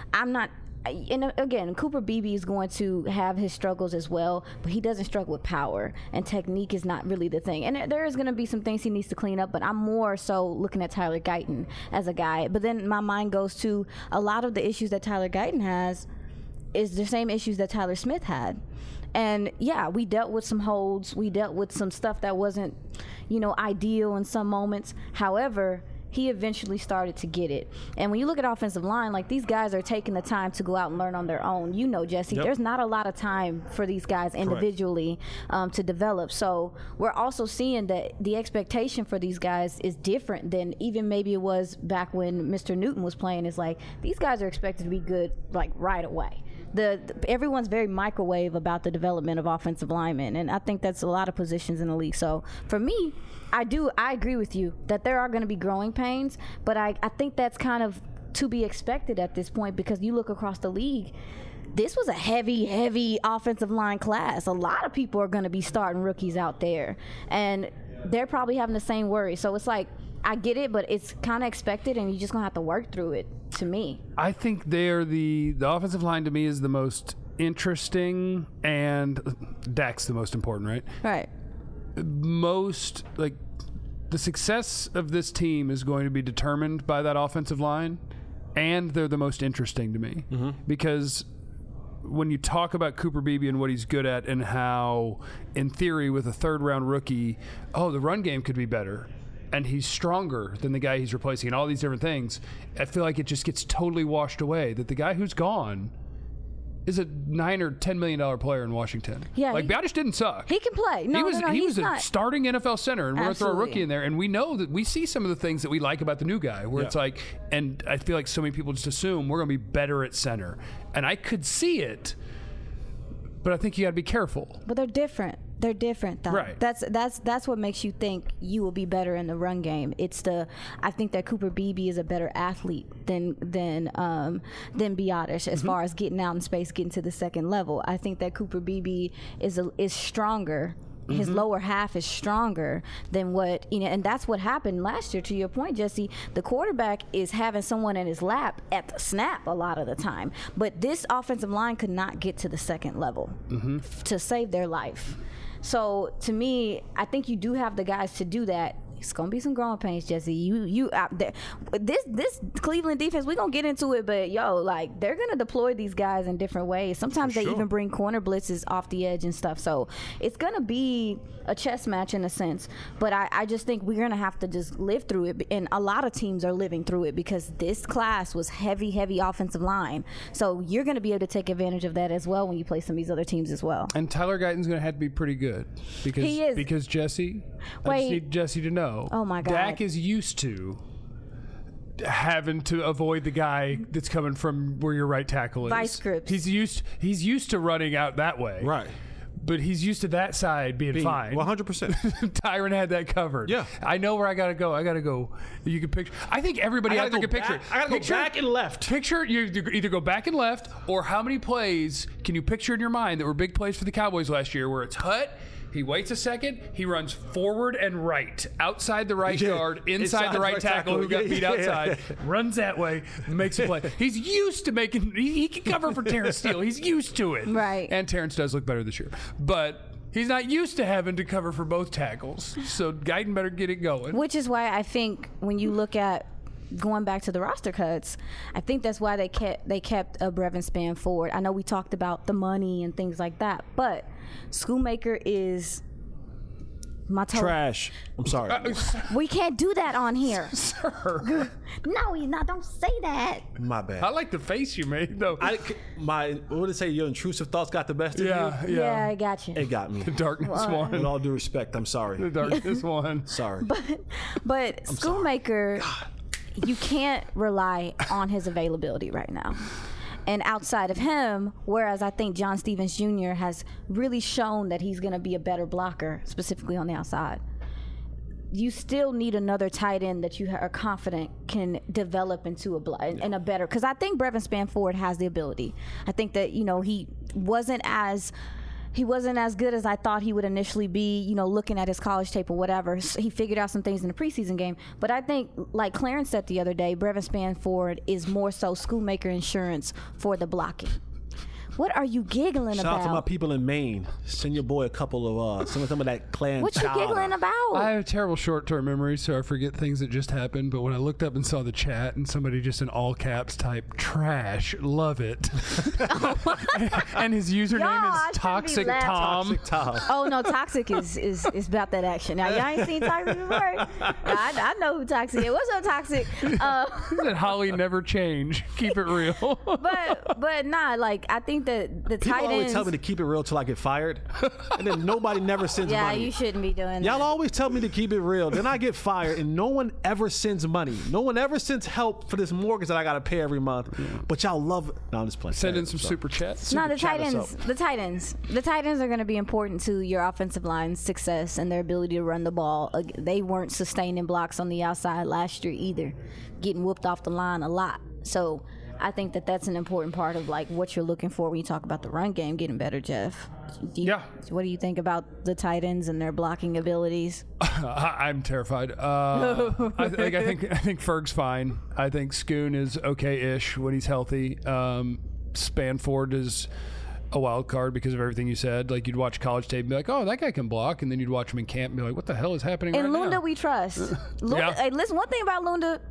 And again, Cooper Beebe is going to have his struggles as well, but he doesn't struggle with power, and technique is not really the thing. And there is going to be some things he needs to clean up, but I'm more so looking at Tyler Guyton as a guy. But then my mind goes to a lot of the issues that Tyler Guyton has is the same issues that Tyler Smith had. And yeah, we dealt with some holds. We dealt with some stuff that wasn't, ideal in some moments. However, he eventually started to get it. And when you look at offensive line, like, these guys are taking the time to go out and learn on their own. Jesse, there's not a lot of time for these guys individually to develop. So we're also seeing that the expectation for these guys is different than even maybe it was back when Mr. Newton was playing. It's like, these guys are expected to be good, like, right away. Everyone's very microwave about the development of offensive linemen, and I think that's a lot of positions in the league. So for me, I agree with you that there are going to be growing pains, but I think that's kind of to be expected at this point, because you look across the league, this was a heavy offensive line class. A lot of people are going to be starting rookies out there, and they're probably having the same worry. So it's like, I get it, but it's kind of expected, and you're just going to have to work through it, to me. I think they're the offensive line, to me, is the most interesting, and Dak's the most important, right? Right. Most, like, the success of this team is going to be determined by that offensive line, and they're the most interesting to me because when you talk about Cooper Beebe and what he's good at and how, in theory, with a third-round rookie, the run game could be better, and he's stronger than the guy he's replacing and all these different things, I feel like it just gets totally washed away that the guy who's gone is a $9 or $10 million player in Washington. Yeah, like Badish didn't suck. He can play. No, he was not. a starting NFL center, and we're going to throw a rookie Absolutely. in there. And we know that we see some of the things that we like about the new guy, where it's like, and I feel like so many people just assume we're going to be better at center, and I could see it, but I think you got to be careful. But they're different. They're different, though. Right. That's what makes you think you will be better in the run game. I think that Cooper Beebe is a better athlete than Biotish as far as getting out in space, getting to the second level. I think that Cooper Beebe is stronger. His lower half is stronger than what, and that's what happened last year. To your point, Jesse, the quarterback is having someone in his lap at the snap a lot of the time. But this offensive line could not get to the second level to save their life. So to me, I think you do have the guys to do that. It's gonna be some growing pains, Jesse. You out there. This Cleveland defense, we're gonna get into it, but they're gonna deploy these guys in different ways. Sometimes they even bring corner blitzes off the edge and stuff. So it's gonna be a chess match in a sense. But I just think we're gonna have to just live through it, and a lot of teams are living through it because this class was heavy offensive line. So you're gonna be able to take advantage of that as well when you play some of these other teams as well. And Tyler Guyton's going to have to be pretty good because He is. Because Jesse, I Wait. just need Jesse to know. Oh, my God. Dak is used to having to avoid the guy that's coming from where your right tackle is. Vice grips. He's used to running out that way. Right. But he's used to that side being fine. 100%. Tyron had that covered. Yeah. I know where I got to go. You can picture. I think everybody out there can picture it. I got to go back and left. Picture you either go back and left, or how many plays can you picture in your mind that were big plays for the Cowboys last year where it's Hut, he waits a second, he runs forward and right, outside the right guard, inside the right tackle who got beat outside, runs that way, makes a play. He's used to making, he can cover for Terrence Steele. He's used to it. Right. And Terrence does look better this year. But he's not used to having to cover for both tackles. So Guyton better get it going. Which is why I think when you look at going back to the roster cuts, I think that's why they kept Brevin Spann-Ford. I know we talked about the money and things like that, but Schoonmaker is my Trash. I'm sorry. We can't do that on here. Sir. No, he's not. Don't say that. My bad. I like the face you made, though. What would it say? Your intrusive thoughts got the best of you? Yeah, I got you. It got me. The darkness With one. all due respect, I'm sorry. The darkness one. Sorry. But Schoonmaker, you can't rely on his availability right now. And outside of him, whereas I think John Stevens Jr. has really shown that he's going to be a better blocker, specifically on the outside, you still need another tight end that you are confident can develop into a better. Because I think Brevin Spann-Ford has the ability. I think that he wasn't as good as I thought he would initially be, looking at his college tape or whatever. He figured out some things in the preseason game. But I think, like Clarence said the other day, Brevin Spann-Ford is more so Schoonmaker insurance for the blocking. What are you giggling Shout about? out to my people in Maine. Send your boy a couple of some of that clan. What you giggling about? I have terrible short-term memory, so I forget things that just happened. But when I looked up and saw the chat and somebody just in all caps type trash, love it, and his username is Toxic Tom. Toxic Tom. Oh no, Toxic is about that action. Now y'all ain't seen Toxic before. I know who Toxic is. What's up, Toxic? He said Holly never change. Keep it real. but nah, like I think that the People tight always ends. tell me to keep it real till I get fired, and then nobody never sends Yeah, money. you shouldn't be doing that. Y'all always tell me to keep it real. Then I get fired, and no one ever sends money. No one ever sends help for this mortgage that I got to pay every month. But y'all love it. No, I'm just playing. Send in some super chats. No, the chat tight us ends. up. The tight ends are going to be important to your offensive line's success and their ability to run the ball. They weren't sustaining blocks on the outside last year either, getting whooped off the line a lot. So I think that that's an important part of like what you're looking for when you talk about the run game getting better, Jeff. Yeah. What do you think about the tight ends and their blocking abilities? I'm terrified. I think Ferg's fine. I think Schoon is okay-ish when he's healthy. Spann-Ford is a wild card because of everything you said. Like, you'd watch college tape and be like, oh, that guy can block. And then you'd watch him in camp and be like, what the hell is happening And right Lunda, now? we trust. Lunda, hey, listen, one thing about Lunda,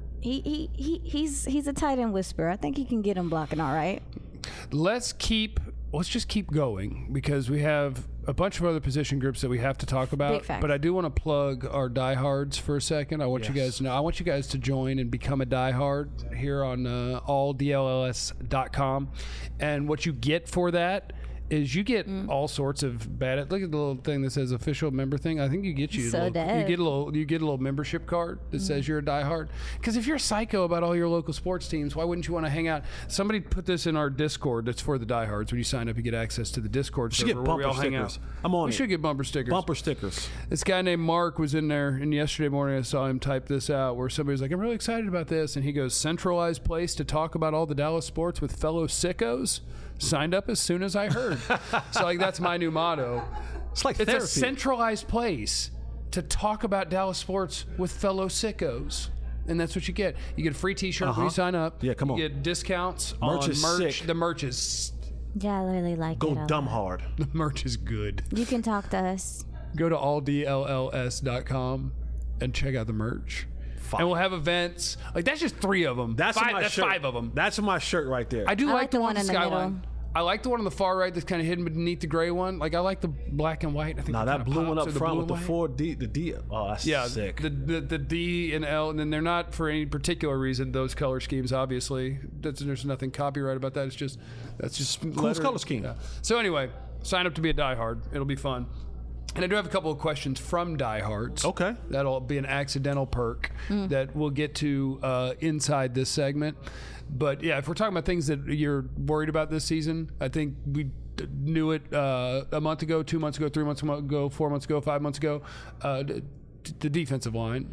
he's a tight end whisperer. I think he can get him blocking all right. Let's just keep going because we have a bunch of other position groups that we have to talk about. Big facts. But I do want to plug our diehards for a second. I want you guys to know. I want you guys to join and become a diehard here on alldlls.com. And what you get for that is you get all sorts of bad. Look at the little thing that says official member thing. I think you get you get a little membership card that says you're a diehard. Because if you're a psycho about all your local sports teams, why wouldn't you want to hang out? Somebody put this in our Discord. That's for the diehards. When you sign up, you get access to the Discord server where we all hang out. I'm on. We should get bumper stickers. Bumper stickers. This guy named Mark was in there, and yesterday morning I saw him type this out where somebody was like, I'm really excited about this. And he goes, centralized place to talk about all the Dallas sports with fellow sickos. Signed up as soon as I heard. So, like, that's my new motto. It's like It's therapy. a centralized place to talk about Dallas sports with fellow sickos. And that's what you get. You get a free T-shirt when you sign up. Yeah, come on. You get discounts Merch on is merch. sick. The merch is Yeah, I really like it. Go a dumb lot. hard. the merch is good. You can talk to us. Go to alldlls.com and check out the merch. And we'll have events. Like, that's just 3 of them. That's five, my that's shirt. 5 of them. That's my shirt right there. I do I like like the the one one in in the Skyline. middle. I like the one on the far right that's kind of hidden beneath the gray one. Like, I like the black and white. I think Now that that kinda blue one pops, up or front blue with the and white. 4D, the D. Oh, that's sick. The D and L, and then they're not for any particular reason. Those color schemes, obviously, there's nothing copyright about that. It's just Cool color scheme. Yeah. So anyway, sign up to be a diehard. It'll be fun. And I do have a couple of questions from diehards. Okay. That'll be an accidental perk that we'll get to inside this segment. But yeah, if we're talking about things that you're worried about this season, I think we knew it a month ago, 2 months ago, 3 months ago, 4 months ago, 5 months ago. The defensive line.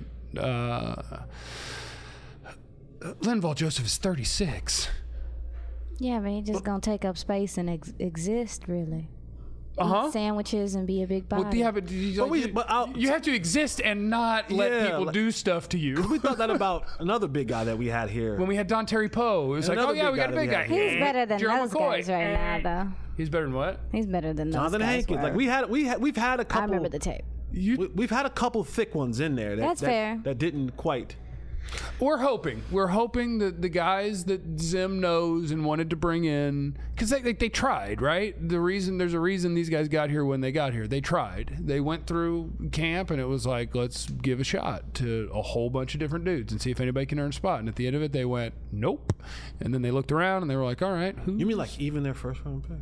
Linval Joseph is 36. Yeah, but he's just gonna take up space and exist, really. Eat sandwiches and be a big body. Well, you have to exist and not let people do stuff to you. We thought that about another big guy that we had here. When we had Don Terry Poe, it was like, another oh yeah, big we got a guy big that guy. we He's better than Gerald those McCoy. guys right now, though. He's better than what? He's better than those Jonathan guys Hankins. were. Like we've had a couple. I remember the tape. We've had a couple thick ones in there. That's fair. That didn't quite. We're hoping that the guys that Zim knows and wanted to bring in, because they tried, right? There's a reason these guys got here when they got here. They tried. They went through camp and it was like, let's give a shot to a whole bunch of different dudes and see if anybody can earn a spot. And at the end of it, they went, nope. And then they looked around and they were like, all right, who? You mean like even their first round pick?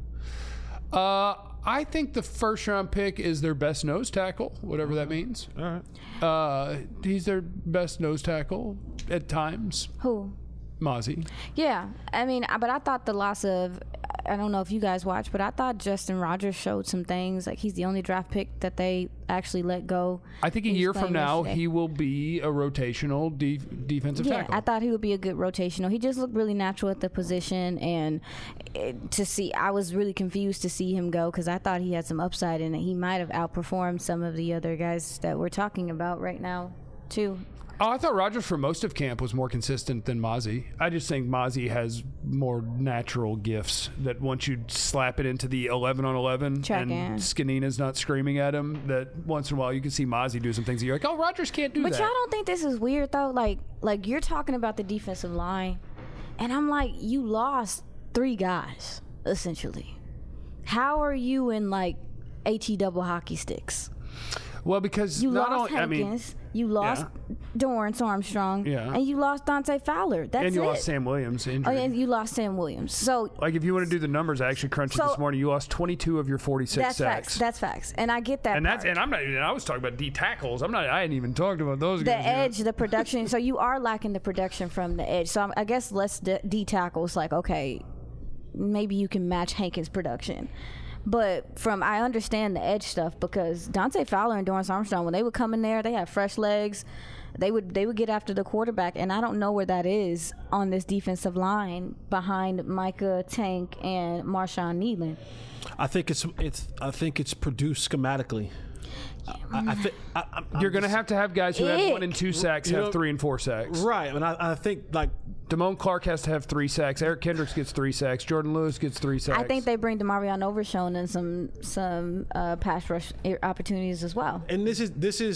I think the first round pick is their best nose tackle, whatever that means. All right. He's their best nose tackle at times. Who? Mozzie. Yeah, I mean, but I thought the loss of, I don't know if you guys watched, but I thought Justin Rogers showed some things. Like, he's the only draft pick that they actually let go. I think a He was year from playing now, yesterday. he will be a rotational defensive Yeah, tackle. I thought he would be a good rotational. He just looked really natural at the position, and I was really confused to see him go because I thought he had some upside in it. He might have outperformed some of the other guys that we're talking about right now, too. Oh, I thought Rogers for most of camp was more consistent than Mozzie. I just think Mozzie has more natural gifts that once you slap it into the 11 on 11 Check and in. Skanina's not screaming at him, that once in a while you can see Mozzie do some things that you're like, oh, Rogers can't do But that. y'all don't think this is weird though? Like you're talking about the defensive line, and I'm like, you lost 3 guys essentially. How are you in like AT double hockey sticks? Well, because You not lost only, Hankins, you lost Dorrance Armstrong, Yeah. and you lost Dante Fowler. That's and you it. lost Sam Williams to Oh, injury. yeah, and you lost Sam Williams. So Like, if you want to do the numbers, I actually crunched it So- this morning. You lost 22 of your 46 that's sacks. facts. That's facts. And I get that. and part. I'm not even. I was talking about D tackles. I hadn't even talked about those the guys. yet. edge, the production. So you are lacking the production from the edge. So I guess less D tackles. Like, okay, maybe you can match Hankins' production. But I understand the edge stuff because Dante Fowler and Dorrance Armstrong, when they would come in there, they had fresh legs. they would get after the quarterback, and I don't know where that is on this defensive line behind Micah, Tank, and Marshawn Nealon. I think it's produced schematically. You're going to have guys who have 1 and 2 sacks have 3 and 4 sacks. Right. And I think, like, Damone Clark has to have 3 sacks. Eric Kendricks gets 3 sacks. Jordan Lewis gets 3 sacks. I think they bring DeMarion Overshown and some pass rush opportunities as well. And this is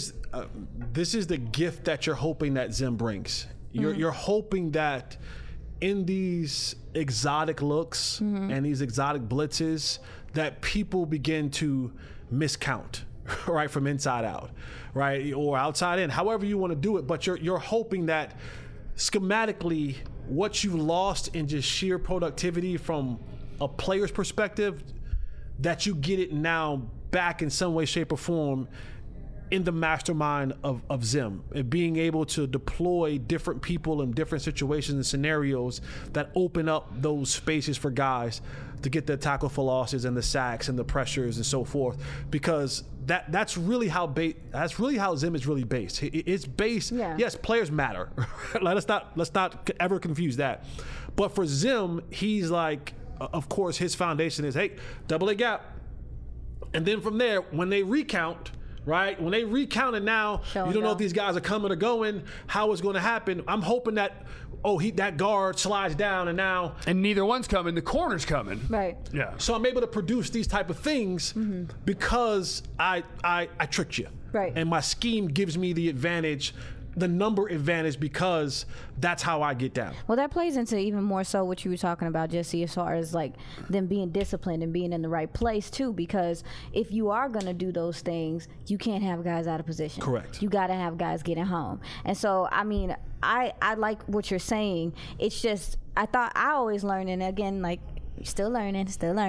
the gift that you're hoping that Zim brings. You're hoping that in these exotic looks and these exotic blitzes that people begin to miscount. Right, from inside out, right, or outside in, however you want to do it. But you're hoping that schematically, what you lost in just sheer productivity from a player's perspective, that you get it now back in some way, shape, or form in the mastermind of Zim, and being able to deploy different people in different situations and scenarios that open up those spaces for guys to get the tackle for losses and the sacks and the pressures and so forth, because that's really how Zim is really based. It's based. Yeah. Yes, players matter. let's not ever confuse that. But for Zim, he's like, of course, his foundation is, hey, double A gap, and then from there, when they recount. Right? When they recount it now, you don't know if these guys are coming or going, how it's going to happen. I'm hoping that, that guard slides down and neither one's coming. The corner's coming. Right. Yeah. So I'm able to produce these type of things because I tricked you. Right. And my scheme gives me the advantage, the number advantage, because that's how I get down. Well, that plays into even more so what you were talking about, Jesse, as far as like them being disciplined and being in the right place too, because if you are going to do those things, you can't have guys out of position. Correct. You got to have guys getting home. And so, I mean, I like what you're saying. It's just, I always learn, and again, like, still learning.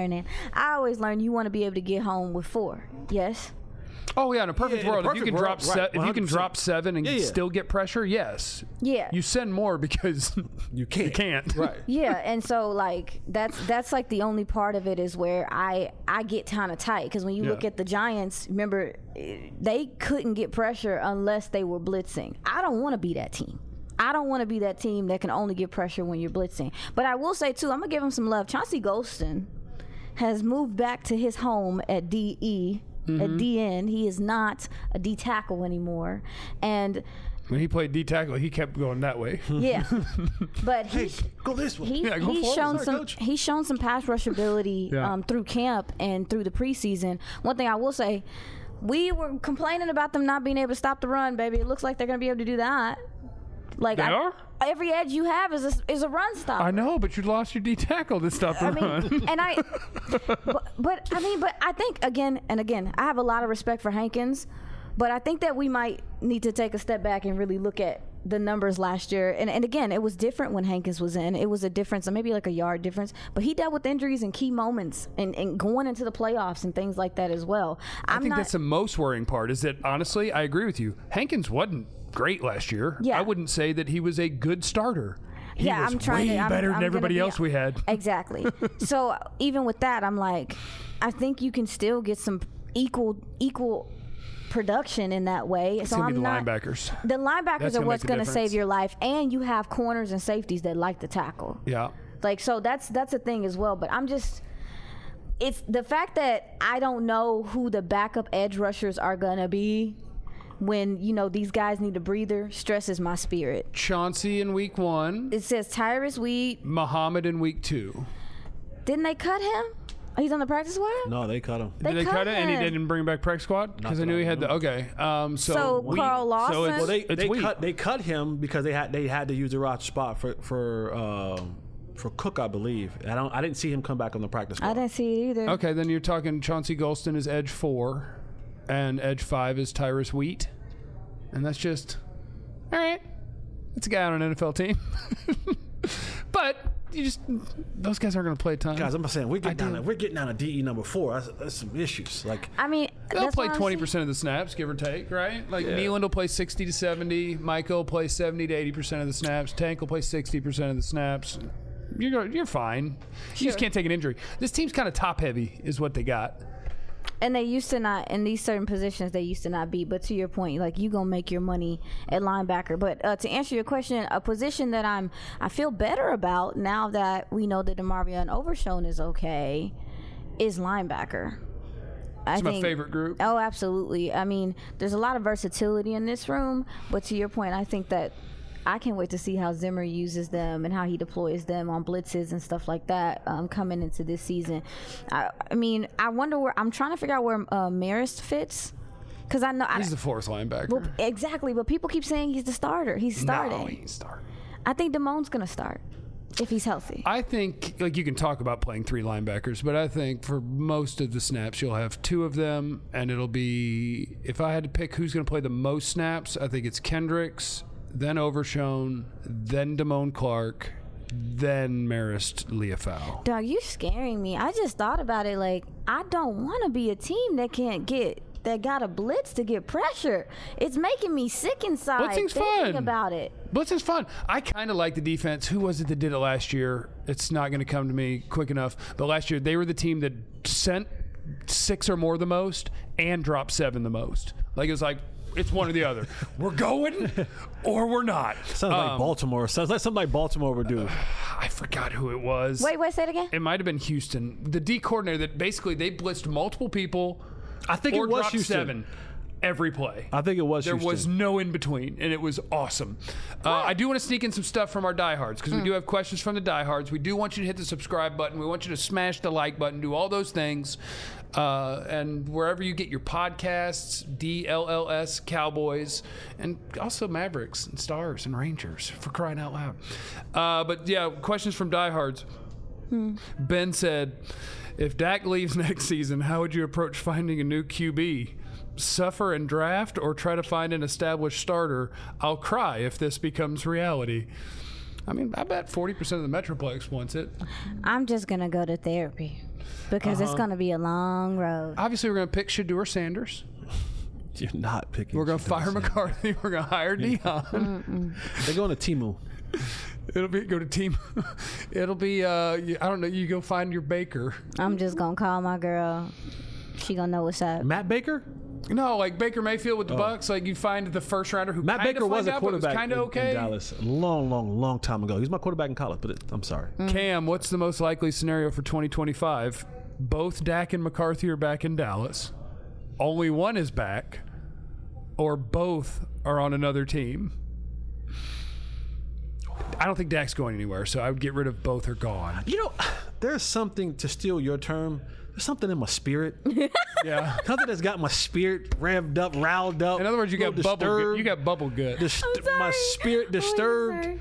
I always learn you want to be able to get home with 4. Yes? Oh yeah, in a perfect world, if you can drop if you can drop 7 and still get pressure, yes. Yeah. You send more because you can't. Right. Yeah, and so like that's like the only part of it is where I get kind of tight, because when you look at the Giants, remember they couldn't get pressure unless they were blitzing. I don't want to be that team. I don't want to be that team that can only get pressure when you're blitzing. But I will say too, I'm gonna give him some love. Chauncey Golston has moved back to his home at DE. At DN, he is not a D tackle anymore, and when he played D tackle, he kept going that way. Yeah, but go this way. He's shown some pass rush ability through camp and through the preseason. One thing I will say, we were complaining about them not being able to stop the run, baby. It looks like they're going to be able to do that. Like they are? Every edge you have is a run stop. I know, but you lost your D tackle to stop the run. And but I think again, I have a lot of respect for Hankins, but I think that we might need to take a step back and really look at the numbers last year. And again, it was different when Hankins was in. It was a difference, maybe like a yard difference, but he dealt with injuries and key moments and going into the playoffs and things like that as well. I think that's the most worrying part, is that honestly, I agree with you. Hankins wasn't great last year. Yeah. I wouldn't say that he was a good starter. He was I'm better than everybody else we had. Exactly. So even with that, I'm like, I think you can still get some equal production in that way. It's so gonna be the not, linebackers. The linebackers That's are gonna what's make the going to difference. save your life, and you have corners and safeties that like to tackle. Yeah. Like, so that's a thing as well. But it's the fact that I don't know who the backup edge rushers are going to be when, these guys need a breather, stresses my spirit. Chauncey in week 1. It says Tyrus Wheat. Muhammad in week 2. Didn't they cut him? He's on the practice squad? No, they cut him. Did they cut it and he didn't bring back practice squad? Because I knew he had the So Carl Lawson. Well, they cut him because they had to use the roster spot for Cook, I believe. I didn't see him come back on the practice squad. I didn't see it either. Okay, then you're talking Chauncey Golston is edge 4, and edge 5 is Tyrus Wheat, and that's just all right. It's a guy on an NFL team, but those guys aren't going to play a ton. Guys, I'm saying we're getting down to DE number 4. That's some issues. Like, I mean, they'll play 20% of the snaps, give or take, right? Like Nealon will play 60 to 70, Micah will play 70 to 80% of the snaps, Tank will play 60% of the snaps. You're fine. You just can't take an injury. This team's kind of top heavy, is what they got. And they used to not, in these certain positions, they used to not be. But to your point, like, you gonna make your money at linebacker. But to answer your question, a position that I feel better about now that we know that DeMarvion Overshown is okay is linebacker. It's my favorite group. Oh, absolutely. I mean, there's a lot of versatility in this room. But to your point, I think that I can't wait to see how Zimmer uses them and how he deploys them on blitzes and stuff like that coming into this season. I mean, I wonder where I'm trying to figure out where Marist fits, because I know He's the fourth linebacker. Well, exactly, but people keep saying he's the starter. He's starting. No, he's starting. I think Damone's gonna start if he's healthy. I think, like, you can talk about playing three linebackers, but I think for most of the snaps, you'll have two of them, and it'll be, if I had to pick who's going to play the most snaps, I think it's Kendricks, then Overshown, then Damone Clark, then Marist Liufau. Dog, you scaring me. I just thought about it. Like, I don't want to be a team that got a blitz to get pressure. It's making me sick inside Blitzing's thinking fun. about it. Blitzing's fun. I kind of like the defense. Who was it that did it last year? It's not going to come to me quick enough. But last year, they were the team that sent 6 or more the most and dropped 7 the most. Like, it was like, it's one or the other. We're going or we're not. Sounds like Baltimore. Sounds like something like Baltimore would do. I forgot who it was. Wait, say it again? It might have been Houston. The D coordinator that basically they blitzed multiple people. I think or it was dropped Houston. 7 every play. I think it was There Houston. was no in between, and it was awesome. I do want to sneak in some stuff from our diehards, because we do have questions from the diehards. We do want you to hit the subscribe button. We want you to smash the like button, do all those things. And wherever you get your podcasts, DLLS, Cowboys, and also Mavericks and Stars and Rangers, for crying out loud. But yeah, questions from diehards. Ben said, if Dak leaves next season, how would you approach finding a new QB? Suffer and draft, or try to find an established starter? I'll cry if this becomes reality. I mean, I bet 40% of the Metroplex wants it. I'm just going to go to therapy because it's going to be a long road. Obviously, we're going to pick Shedeur Sanders. You're not picking. We're going to fire McCarthy. We're going to hire Dion. They're going to Temu. It'll be go to team. It'll be I don't know. You go find your Baker. I'm just going to call my girl. She going to know what's up. Matt Baker? No, like Baker Mayfield with the Bucks. Like, you find the first rounder who Matt Baker was a quarterback kind of okay. in Dallas a long time ago. He was my quarterback in college, but I'm sorry. Cam, what's the most likely scenario for 2025? Both Dak and McCarthy are back in Dallas. Only one is back, or both are on another team. I don't think Dak's going anywhere, so I would get rid of both are gone. You know, there's something, to steal your term, there's something in my spirit. Yeah. Something that's got my spirit revved up, riled up. In other words, you got bubble good. You got bubble good. My spirit disturbed.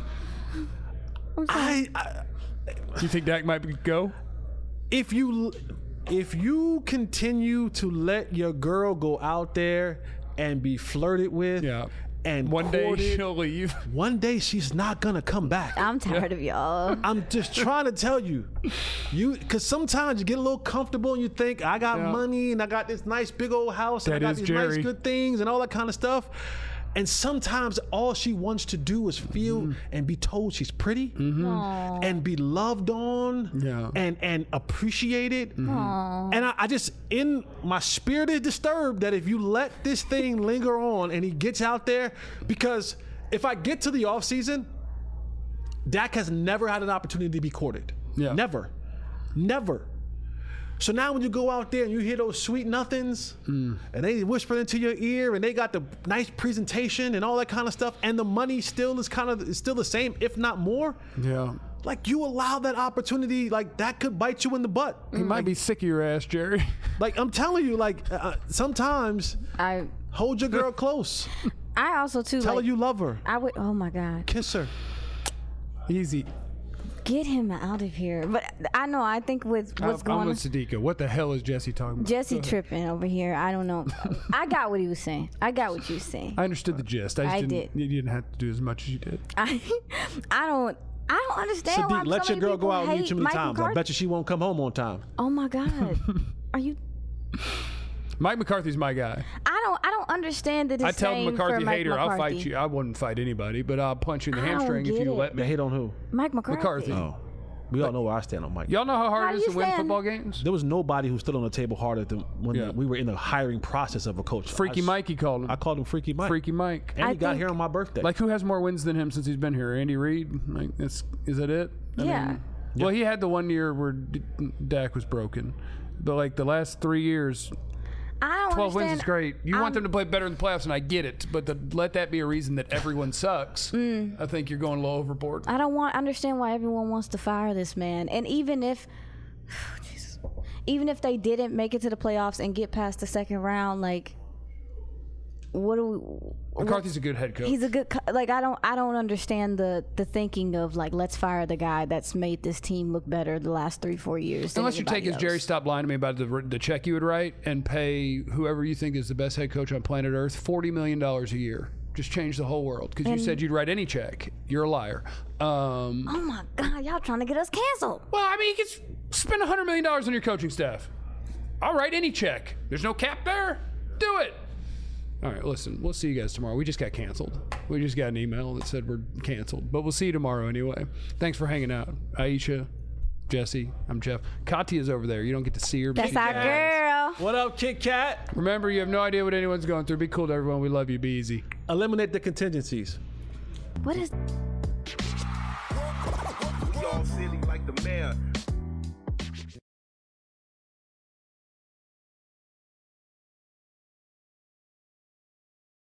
I You think Dak might go? if you continue to let your girl go out there and be flirted with, Yeah. and One day courted, she'll leave. one day she's not gonna come back. I'm tired of y'all. I'm just trying to tell you, because sometimes you get a little comfortable and you think, I got money and I got this nice big old house and That I got is these Jerry. nice good things and all that kind of stuff. And sometimes all she wants to do is feel and be told she's pretty and be loved on and appreciated. And I just, in my spirit is disturbed that if you let this thing linger on and he gets out there, because if I get to the offseason, Dak has never had an opportunity to be courted. Yeah. Never. So now when you go out there and you hear those sweet nothings and they whisper into your ear and they got the nice presentation and all that kind of stuff, and the money still is still the same, if not more. Yeah. Like, you allow that opportunity, like, that could bite you in the butt. He might be sick of your ass, Jerry. Like, I'm telling you, like, sometimes hold your girl close. I also too Tell her like, you love her. I would. Oh my God. Kiss her. Easy. Get him out of here. But I know. I think with what's I'm going on. with Sadiqa. What the hell is Jesse talking about? Jesse tripping over here. I don't know. I got what he was saying. I got what you were saying. I understood the gist. I did. You didn't have to do as much as you did. I don't understand why Sadiq, let so your many girl go people out with you hate too many Mike times. I McCarthy. bet you she won't come home on time. Oh my God. Are you? Mike McCarthy's my guy. I don't understand the I tell the disdain McCarthy for Mike hater, McCarthy. I'll fight you. I wouldn't fight anybody, but I'll punch you in the I don't hamstring if get you it. let They me. hate on who? Mike McCarthy. McCarthy. Oh. We all know where I stand on Mike. Y'all know how hard How it do is you to win stand? football games? There was nobody who stood on the table harder than when Yeah. we were in the hiring process of a coach. Freaky Mike, he called him. I called him Freaky Mike. Freaky Mike. And I he got think- here on my birthday. Like, who has more wins than him since he's been here? Andy Reid? Like, is that it? Yeah. Well, he had the 1 year where Dak was broken. But, like, the last 3 years, I don't 12 wins understand. is great. You want them to play better in the playoffs, and I get it. But to let that be a reason that everyone sucks, I think you're going a little overboard. I don't understand why everyone wants to fire this man. And even if, Jesus, even if they didn't make it to the playoffs and get past the second round, like, what do we? McCarthy's a good head coach. He's a good, like, I don't understand the thinking of, like, let's fire the guy that's made this team look better the last 3-4 years. than Unless your take anybody is, Jerry, else. stop lying to me about the check you would write and pay whoever you think is the best head coach on planet Earth $40 million a year. Just change the whole world. Because you said you'd write any check. You're a liar. Oh my God, y'all trying to get us canceled. Well, I mean, you could spend $100 million on your coaching staff. I'll write any check. There's no cap there. Do it. All right, listen, we'll see you guys tomorrow. We just got canceled. We just got an email that said we're canceled. But we'll see you tomorrow anyway. Thanks for hanging out. Aisha, Jesse, I'm Jeff. Katya's over there. You don't get to see her. but That's she's our nice. girl. What up, Kit Kat? Remember, you have no idea what anyone's going through. Be cool to everyone. We love you. Be easy. Eliminate the contingencies. What is? We all silly like the